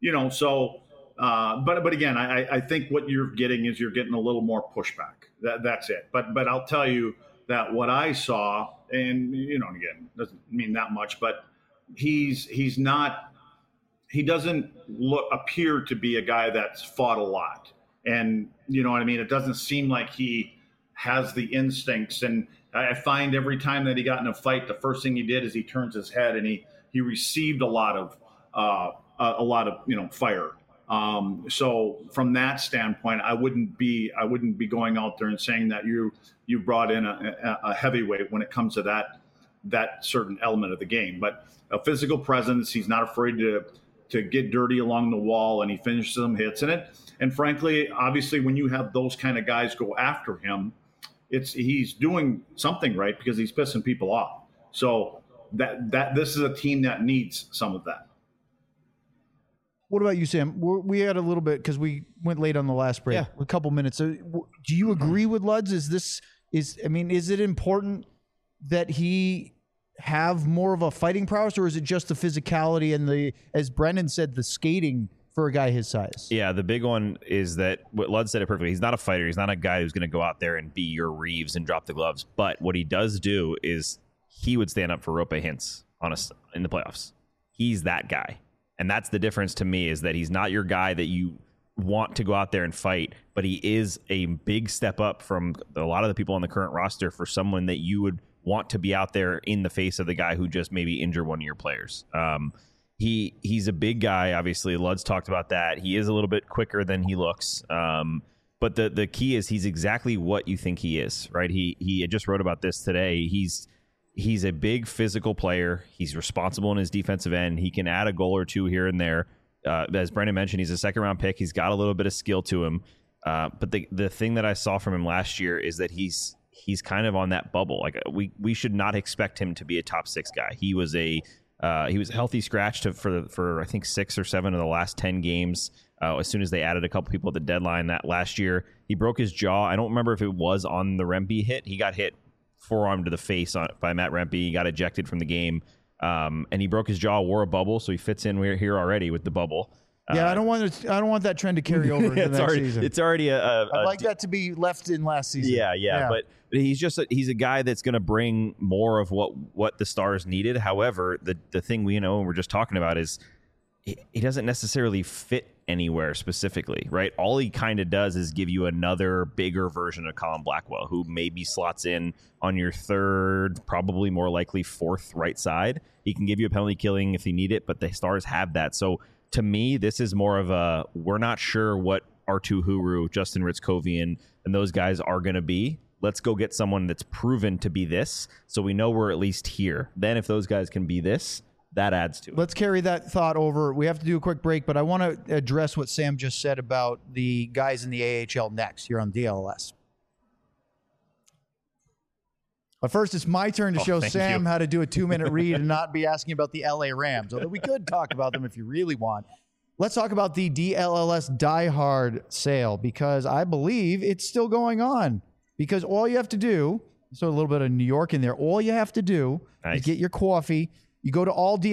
again, I think what you're getting is you're getting a little more pushback. That's it. But I'll tell you that what I saw, and again, doesn't mean that much, but he doesn't appear to be a guy that's fought a lot. And you know what I mean? It doesn't seem like he has the instincts. And I find every time that he got in a fight, the first thing he did is he turns his head and he received a lot of fire. So from that standpoint, I wouldn't be going out there and saying that you brought in a heavyweight when it comes to that certain element of the game. But a physical presence, he's not afraid to get dirty along the wall, and he finishes some hits in it. And frankly, obviously, when you have those kind of guys go after him, he's doing something right because he's pissing people off. So that this is a team that needs some of that. What about you, Sam? We had a little bit because we went late on the last break. A couple minutes. So, do you agree with Luds? Is it important that he have more of a fighting prowess, or is it just the physicality and as Brendan said, the skating for a guy his size? Yeah, the big one is that what Luds said it perfectly. He's not a fighter. He's not a guy who's going to go out there and be your Reeves and drop the gloves. But what he does do is he would stand up for Roope Hintz in the playoffs. He's that guy. And that's the difference to me, is that he's not your guy that you want to go out there and fight, but he is a big step up from a lot of the people on the current roster for someone that you would want to be out there in the face of the guy who just maybe injured one of your players. He's a big guy. Obviously, Luds talked about that. He is a little bit quicker than he looks. But the key is he's exactly what you think he is, right? He just wrote about this today. He's a big physical player. He's responsible in his defensive end. He can add a goal or two here and there. As Brendan mentioned, he's a second-round pick. He's got a little bit of skill to him. But the thing that I saw from him last year is that he's kind of on that bubble. Like we should not expect him to be a top 6 guy. He was a healthy scratch for I think 6 or 7 of the last 10 games. As soon as they added a couple people at the deadline that last year, he broke his jaw. I don't remember if it was on the Rempe hit. He got hit forearm to the face by Matt Rempe. He got ejected from the game, and he broke his jaw, wore a bubble, so he fits in here already with the bubble. Yeah, I don't want that trend to carry over into next season. It's already I'd like that to be left in last season. Yeah. But he's a guy that's going to bring more of what the Stars needed. However, the thing we know and we're just talking about is he doesn't necessarily fit anywhere specifically, right? All he kind of does is give you another bigger version of Colin Blackwell, who maybe slots in on your third, probably more likely fourth right side. He can give you a penalty killing if you need it, but the Stars have that. So to me, this is more of we're not sure what Arttu Huru, Justin Ritzkovian, and those guys are going to be. Let's go get someone that's proven to be this, so we know we're at least here. Then if those guys can be this, that adds to it. Let's carry that thought over. We have to do a quick break, but I want to address what Sam just said about the guys in the AHL next here on DLS. But first, it's my turn to show Sam you. how to do a 2-minute read and not be asking about the LA Rams, although we could talk about them if you really want. Let's talk about the DLLS Die Hard sale, because I believe it's still going on. Because all you have to do, so a little bit of New York in there, all you have to do is get your coffee. You go to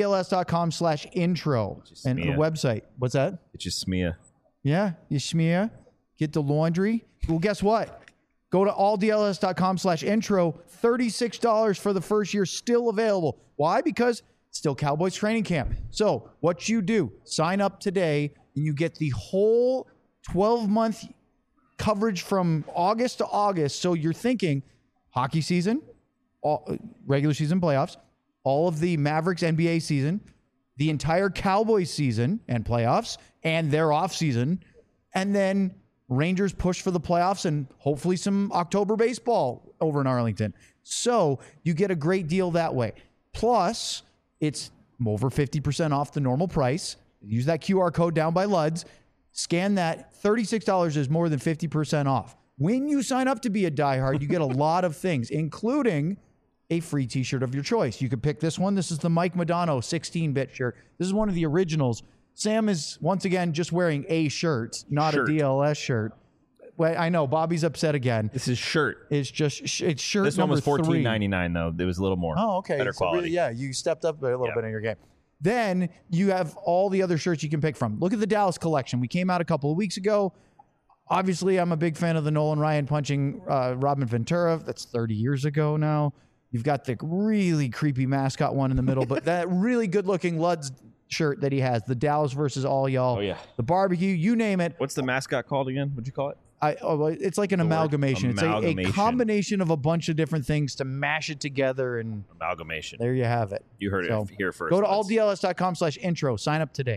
alldls.com/intro and the website. What's that? It's just smear. Yeah, you smear, get the laundry. Well, guess what? Go to alldls.com/intro. $36 for the first year, still available. Why? Because it's still Cowboys training camp. So what you do, sign up today, and you get the whole 12-month coverage from August to August. So you're thinking hockey season, regular season playoffs, all of the Mavericks NBA season, the entire Cowboys season and playoffs, and their off season, and then Rangers push for the playoffs and hopefully some October baseball over in Arlington. So you get a great deal that way. Plus, it's over 50% off the normal price. Use that QR code down by Luds. Scan that. $36 is more than 50% off. When you sign up to be a diehard, you get a lot of things, including a free t-shirt of your choice. You could pick this one. This is the Mike Modano 16-bit shirt. This is one of the originals. Sam is, once again, just wearing a shirt, not a DLS shirt. Well, I know. Bobby's upset again. This is shirt. It's just it's shirt. This one was $14.99 though. It was a little more. Oh, okay. Better quality. Really, yeah, you stepped up a little bit in your game. Then you have all the other shirts you can pick from. Look at the Dallas collection. We came out a couple of weeks ago. Obviously, I'm a big fan of the Nolan Ryan punching Robin Ventura. That's 30 years ago now. You've got the really creepy mascot one in the middle, but that really good-looking Luds shirt that he has, the Dallas versus all y'all. Oh, yeah. The barbecue, you name it. What's the mascot called again? What'd you call it? It's like an amalgamation. It's a combination of a bunch of different things to mash it together. And amalgamation. There you have it. You heard it here first. Go to alldls.com/intro. Sign up today.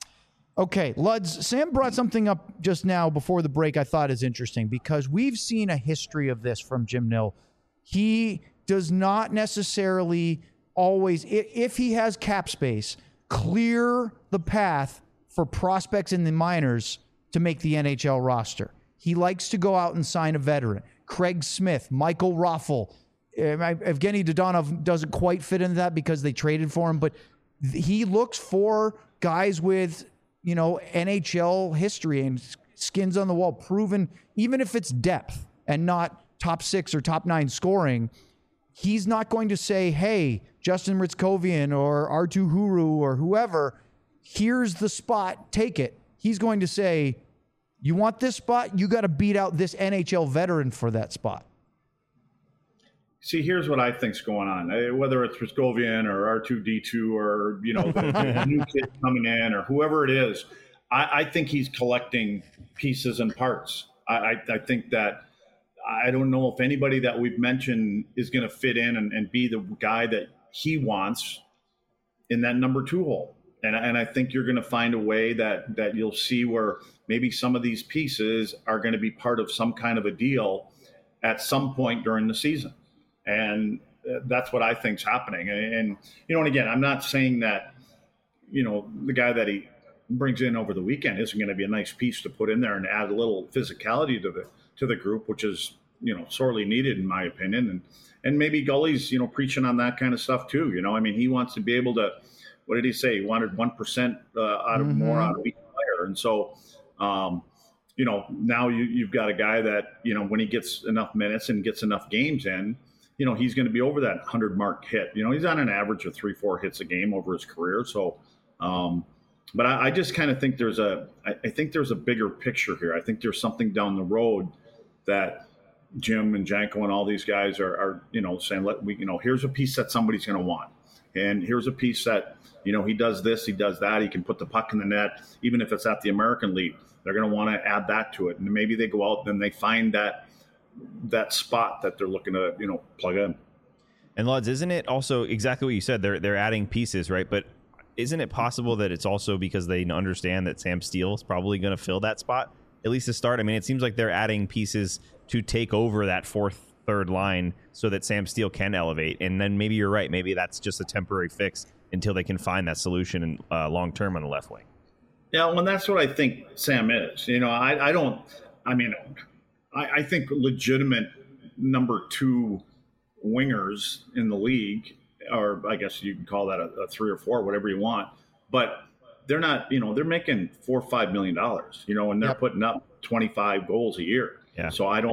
Okay, Luds, Sam brought something up just now before the break I thought is interesting, because we've seen a history of this from Jim Nill. He does not necessarily always, if he has cap space, clear the path for prospects in the minors to make the NHL roster. He likes to go out and sign a veteran. Craig Smith, Michael Raffel. Evgeny Dodonov doesn't quite fit into that because they traded for him, but he looks for guys with, NHL history and skins on the wall, proven, even if it's depth and not top 6 or top 9 scoring. He's not going to say, hey, Justin Ritzkovian or Artu Huru or whoever, here's the spot, take it. He's going to say, you want this spot? You got to beat out this NHL veteran for that spot. See, here's what I think's going on. Whether it's Ritzkovian or R2D2 or, the new kid coming in or whoever it is, I think he's collecting pieces and parts. I think that I don't know if anybody that we've mentioned is going to fit in and be the guy that he wants in that number 2 hole. And I think you're going to find a way that you'll see where maybe some of these pieces are going to be part of some kind of a deal at some point during the season. And that's what I think's happening. And again, I'm not saying that, the guy that he brings in over the weekend isn't going to be a nice piece to put in there and add a little physicality to the group, which is, sorely needed in my opinion. And maybe Gully's, preaching on that kind of stuff too. He wants to be able to, what did he say? He wanted 1% more out of each player. And so, now you've got a guy that, when he gets enough minutes and gets enough games in, he's going to be over that 100 mark hit. He's on an average of 3-4 hits a game over his career. So, but I just kind of think I think there's a bigger picture here. I think there's something down the road that Jim and Janko and all these guys are saying, here's a piece that somebody's going to want. And here's a piece that, he does this, he does that. He can put the puck in the net, even if it's at the American League. They're going to want to add that to it. And maybe they go out and they find that spot that they're looking to, plug in. And Luds, isn't it also exactly what you said? They're adding pieces, right? But isn't it possible that it's also because they understand that Sam Steele is probably going to fill that spot, at least to start? I mean, it seems like they're adding pieces to take over that third line so that Sam Steele can elevate. And then maybe you're right. Maybe that's just a temporary fix until they can find that solution long term on the left wing. Yeah, well, that's what I think Sam is. I think legitimate number 2 wingers in the league, or I guess you can call that a 3 or 4, whatever you want. But they're not, they're making $4 or $5 million, and they're putting up 25 goals a year. Yeah. So I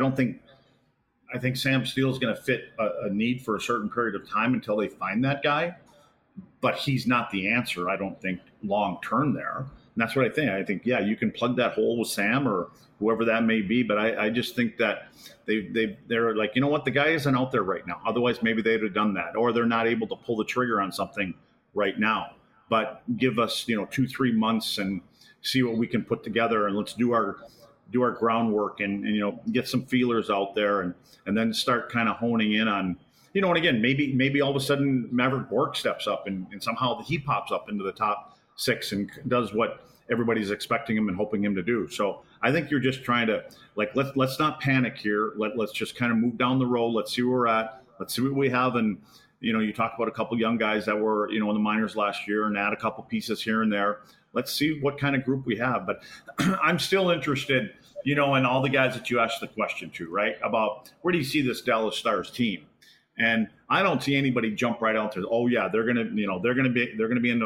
think Sam Steele's going to fit a need for a certain period of time until they find that guy. But he's not the answer, I don't think, long term there. And that's what I think. I think, yeah, you can plug that hole with Sam or whoever that may be. But I just think that they're like, you know what, the guy isn't out there right now. Otherwise, maybe they'd have done that. Or they're not able to pull the trigger on something right now. But give us, 2-3 months and see what we can put together, and let's do our groundwork and get some feelers out there and then start kind of honing in on, and again, maybe all of a sudden Maverick Bourque steps up and somehow he pops up into the top 6 and does what everybody's expecting him and hoping him to do. So I think you're just trying to, like, let's not panic here. Let's just kind of move down the road. Let's see where we're at. Let's see what we have. And, you talk about a couple young guys that were, in the minors last year and add a couple pieces here and there. Let's see what kind of group we have. But I'm still interested, in all the guys that you asked the question to, right? About where do you see this Dallas Stars team? And I don't see anybody jump right out to, oh yeah, they're gonna be in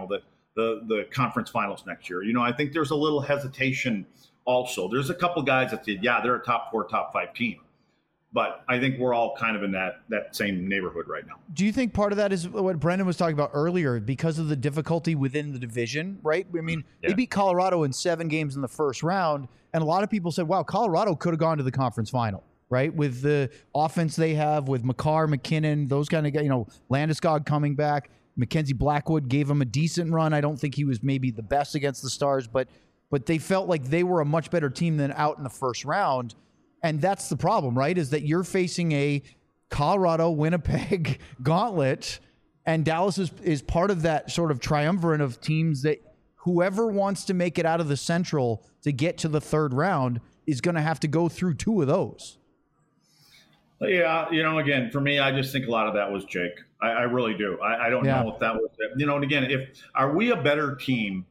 the conference finals next year. I think there's a little hesitation also. There's a couple guys that said, yeah, they're a top 4, top 5 team. But I think we're all kind of in that same neighborhood right now. Do you think part of that is what Brendan was talking about earlier, because of the difficulty within the division, right? I mean, They beat Colorado in 7 games in the first round, and a lot of people said, wow, Colorado could have gone to the conference final, right? With the offense they have, with Makar, McKinnon, those kind of guys, Landeskog coming back. Mackenzie Blackwood gave him a decent run. I don't think he was maybe the best against the Stars, but they felt like they were a much better team than out in the first round. And that's the problem, right? Is that you're facing a Colorado, Winnipeg gauntlet, and Dallas is part of that sort of triumvirate of teams that whoever wants to make it out of the Central to get to the third round is going to have to go through 2 of those. Yeah, again, for me, I just think a lot of that was Jake. I really do. I don't know if that was it. And again, are we a better team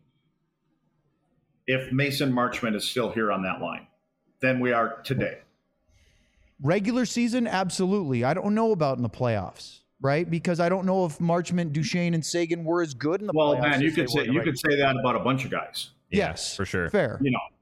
if Mason Marchment is still here on that line than we are today? Regular season, absolutely. I don't know about in the playoffs, right? Because I don't know if Marchment, Duchesne, and Sagan were as good in the playoffs. Well, man, you could say that about a bunch of guys. Yes, for sure. Fair.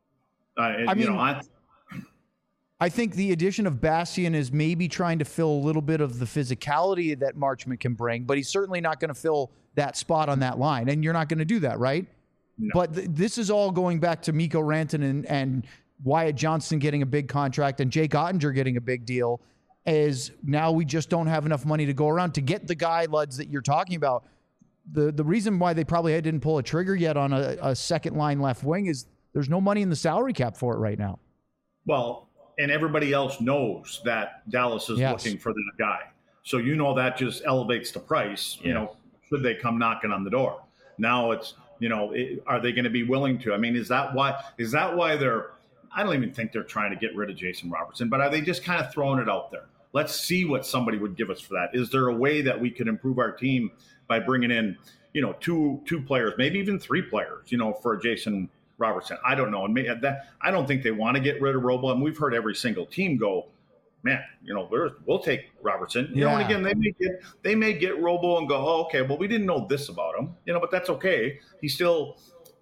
I think the addition of Bastian is maybe trying to fill a little bit of the physicality that Marchment can bring, but he's certainly not going to fill that spot on that line, and you're not going to do that, right? No. But this is all going back to Mikko Rantanen and Wyatt Johnston getting a big contract and Jake Ottinger getting a big deal. Is now we just don't have enough money to go around to get the guy, Luds, that you're talking about. The reason why they probably didn't pull a trigger yet on a second line left wing is there's no money in the salary cap for it right now. Well, and everybody else knows that Dallas is looking for that guy. So that just elevates the price, should they come knocking on the door. Now it's, are they going to be willing to? I mean, is that why they're – I don't even think they're trying to get rid of Jason Robertson, but are they just kind of throwing it out there? Let's see what somebody would give us for that. Is there a way that we could improve our team by bringing in, two players, maybe even 3 players, for Jason Robertson? I don't know. And I don't think they want to get rid of Robo. And we've heard every single team go, man, we'll take Robertson. And again, they may get Robo and go, oh, okay, well, we didn't know this about him, but that's okay. He still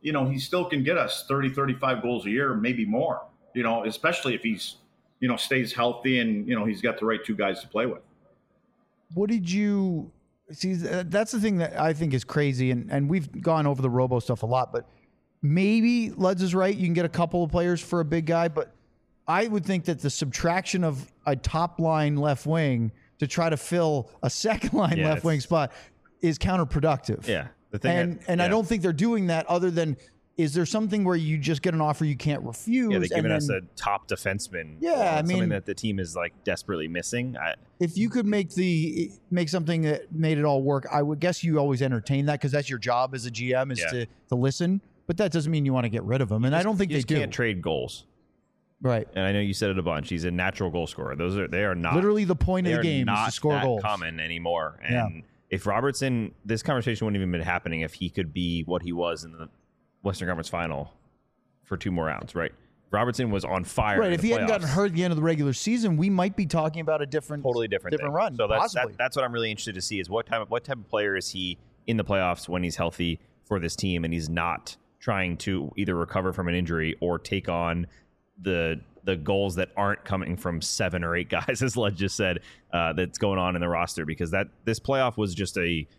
can get us 30, 35 goals a year, maybe more, especially if he's, stays healthy and, he's got the right 2 guys to play with. What did you see? That's the thing that I think is crazy. And we've gone over the Robo stuff a lot, but maybe Luds is right. You can get a couple of players for a big guy, but I would think that the subtraction of a top line left wing to try to fill a second line left wing spot is counterproductive. Yeah. I don't think they're doing that other than, is there something where you just get an offer you can't refuse? Yeah, they're giving us a top defenseman. Yeah, something that the team is like desperately missing. If you could make something that made it all work, I would guess you always entertain that because that's your job as a GM is to listen. But that doesn't mean you want to get rid of him, and I don't think they do. You can't trade goals. Right. And I know you said it a bunch. He's a natural goal scorer. They are not literally the point of the game is to score goals. Common anymore. And if Robertson, this conversation wouldn't even been happening if he could be what he was in the Western Conference Final for 2 more rounds, right? Robertson was on fire. Right. If he hadn't gotten hurt at the end of the regular season, we might be talking about a totally different run. So that's what I'm really interested to see is what type of player is he in the playoffs when he's healthy for this team and he's not trying to either recover from an injury or take on the goals that aren't coming from 7 or 8 guys, as Lud just said, that's going on in the roster, because this playoff was just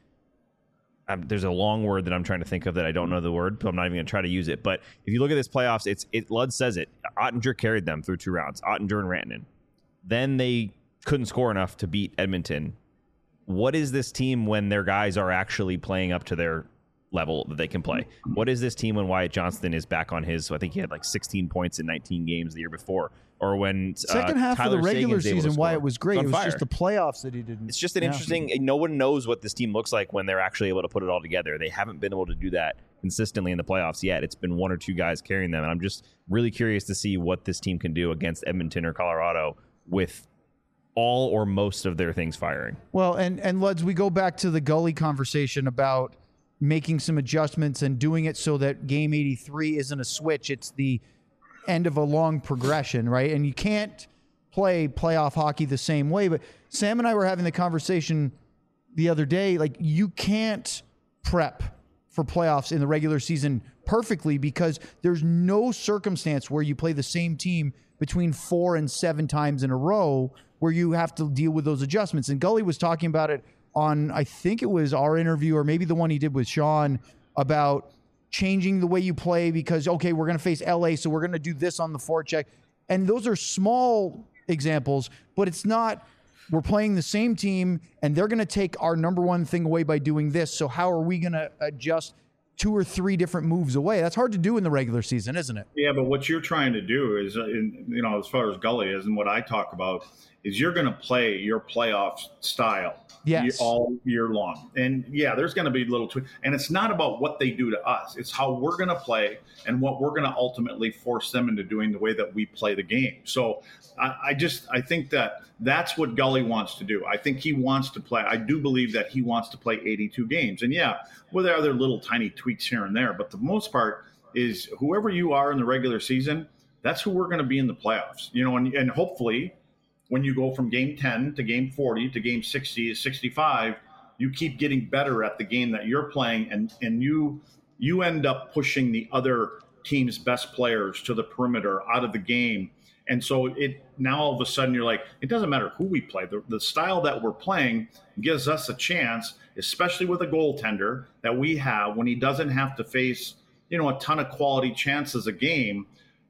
there's a long word that I'm trying to think of that I don't know the word, but I'm not even going to try to use it. But if you look at this playoffs, Lud says it. Ottinger carried them through 2 rounds, Ottinger and Rantanen. Then they couldn't score enough to beat Edmonton. What is this team when their guys are actually playing up to their level that they can play? What is this team when Wyatt Johnston is back on his, I think he had like 16 points in 19 games the year before, or when second half Tyler of the regular season, Wyatt was great. It was just the playoffs that he didn't. It's just an interesting, no one knows what this team looks like when they're actually able to put it all together. They haven't been able to do that consistently in the playoffs yet. It's been 1 or 2 guys carrying them, and I'm just really curious to see what this team can do against Edmonton or Colorado with all or most of their things firing. Well, and Luds, we go back to the Gully conversation about making some adjustments and doing it so that game 83 isn't a switch. It's the end of a long progression, right? And you can't play playoff hockey the same way. But Sam and I were having the conversation the other day, like you can't prep for playoffs in the regular season perfectly because there's no circumstance where you play the same team between 4 and 7 times in a row where you have to deal with those adjustments. And Gully was talking about it on, I think it was our interview or maybe the one he did with Sean about changing the way you play because, okay, we're going to face LA, so we're going to do this on the forecheck. And those are small examples, but it's not, we're playing the same team and they're going to take our number one thing away by doing this. So how are we going to adjust 2 or 3 different moves away? That's hard to do in the regular season, isn't it? Yeah, but what you're trying to do is, as far as Gully is and what I talk about, is you're going to play your playoff style all year long. And yeah, there's going to be little tweaks. And it's not about what they do to us. It's how we're going to play and what we're going to ultimately force them into doing the way that we play the game. So I think that's what Gully wants to do. I think he wants to play. I do believe that he wants to play 82 games. And yeah, well, there are other little tiny tweaks here and there, but the most part is whoever you are in the regular season, that's who we're going to be in the playoffs. And hopefully when you go from game 10 to game 40 to game 60 to 65, you keep getting better at the game that you're playing, and you end up pushing the other team's best players to the perimeter out of the game. And so now all of a sudden you're like, it doesn't matter who we play. The style that we're playing gives us a chance, especially with a goaltender that we have when he doesn't have to face, a ton of quality chances a game.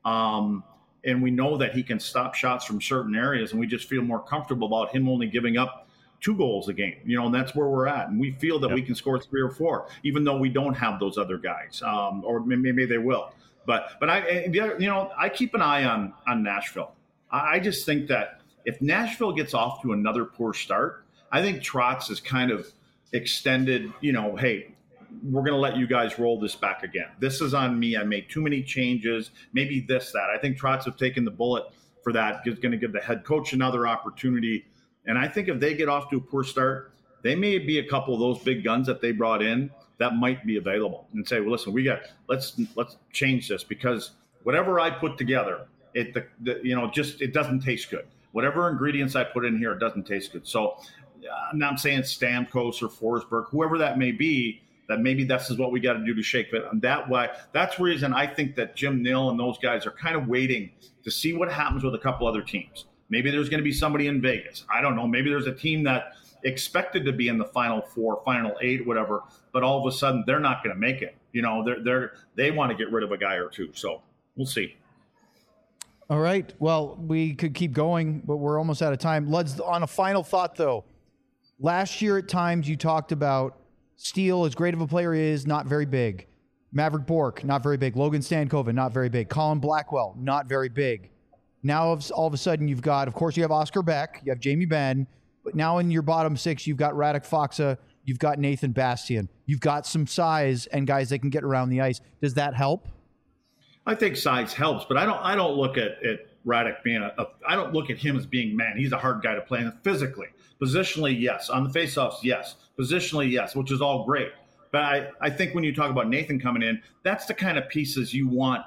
And we know that he can stop shots from certain areas, and we just feel more comfortable about him only giving up 2 goals a game, and that's where we're at. And we feel that we can score 3 or 4, even though we don't have those other guys, or maybe they will. But I keep an eye on Nashville. I just think that if Nashville gets off to another poor start, I think Trotz is kind of extended, hey, we're going to let you guys roll this back again. This is on me. I made too many changes, maybe this, that. I think Trotz have taken the bullet for that. Is going to give the head coach another opportunity. And I think if they get off to a poor start, they may be a couple of those big guns that they brought in that might be available and say, well, listen, let's change this because whatever I put together, it doesn't taste good. Whatever ingredients I put in here, it doesn't taste good. So I'm not saying Stamkos or Forsberg, whoever that may be, that maybe this is what we got to do to shake it. And that's the reason I think that Jim Nill and those guys are kind of waiting to see what happens with a couple other teams. Maybe there's going to be somebody in Vegas. I don't know. Maybe there's a team that expected to be in the Final 4, Final 8, whatever, but all of a sudden they're not going to make it. They want to get rid of a guy or two. So we'll see. All right. Well, we could keep going, but we're almost out of time. Let's on a final thought, though. Last year at times you talked about Steele, as great of a player he is, not very big. Maverick Bourque, not very big. Logan Stankoven, not very big. Colin Blackwell, not very big. Now, all of a sudden, you've got, of course, you have Oscar Beck, you have Jamie Benn, but now in your bottom 6, you've got Radek Faksa, you've got Nathan Bastian. You've got some size and guys that can get around the ice. Does that help? I think size helps, but I don't look at Radek being I don't look at him as being, man, he's a hard guy to play physically. Positionally, yes. On the faceoffs, yes. Positionally, yes, which is all great. But I think when you talk about Nathan coming in, that's the kind of pieces you want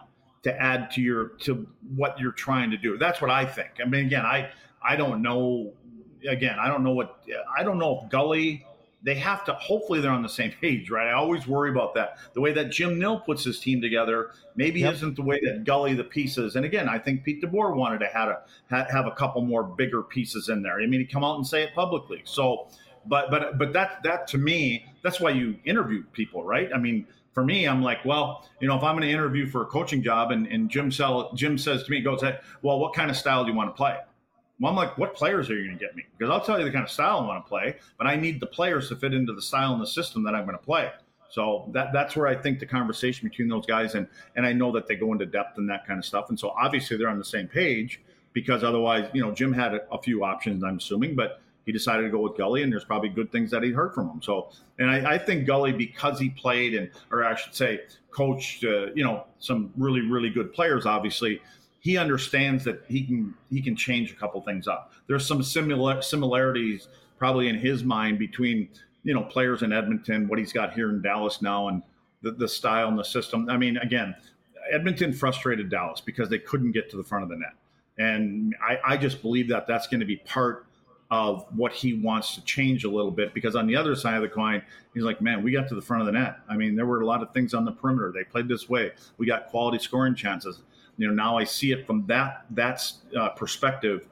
to add to what you're trying to do. That's what I think. I mean, again, I don't know. Again, I don't know if Gully. They have to, hopefully they're on the same page, right? I always worry about that. The way that Jim Nill puts his team together maybe isn't the way that Gully, the pieces. And again, I think Pete DeBoer wanted to have a couple more bigger pieces in there. I mean, he'd come out and say it publicly. So, but that to me, that's why you interview people, right? I mean, for me, I'm like, well, if I'm going to interview for a coaching job and Jim says to me, well, what kind of style do you want to play? Well, I'm like, what players are you going to get me? Because I'll tell you the kind of style I want to play, but I need the players to fit into the style and the system that I'm going to play. So that's where I think the conversation between those guys, and I know that they go into depth and that kind of stuff. And so obviously they're on the same page, because otherwise, Jim had a few options, I'm assuming, but he decided to go with Gully, and there's probably good things that he heard from him. So, and I think Gully, because he played or I should say coached, some really, really good players, obviously, he understands that he can change a couple things up. There's some similarities probably in his mind between, players in Edmonton, what he's got here in Dallas now, and the style and the system. I mean, again, Edmonton frustrated Dallas because they couldn't get to the front of the net. And I just believe that that's going to be part of what he wants to change a little bit, because on the other side of the coin, he's like, man, we got to the front of the net. I mean, there were a lot of things on the perimeter. They played this way. We got quality scoring chances. Now I see it from that perspective.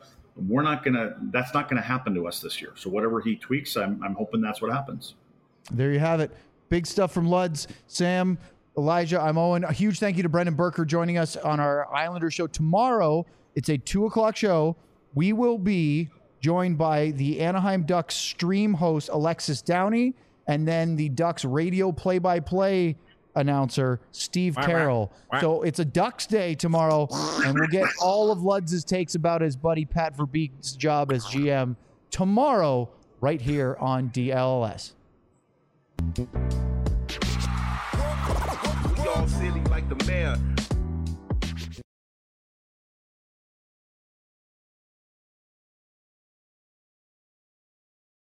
That's not gonna happen to us this year. So whatever he tweaks, I'm hoping that's what happens. There you have it. Big stuff from Luds. Sam, Elijah, I'm Owen. A huge thank you to Brendan Burker joining us on our Islander show tomorrow. It's a 2:00 show. We will be joined by the Anaheim Ducks stream host Alexis Downey, and then the Ducks radio play-by-play announcer Steve Carroll. So it's a Ducks day tomorrow, and we'll get all of Luds' takes about his buddy Pat Verbeek's job as GM tomorrow right here on DLS. Y'all silly like the mayor.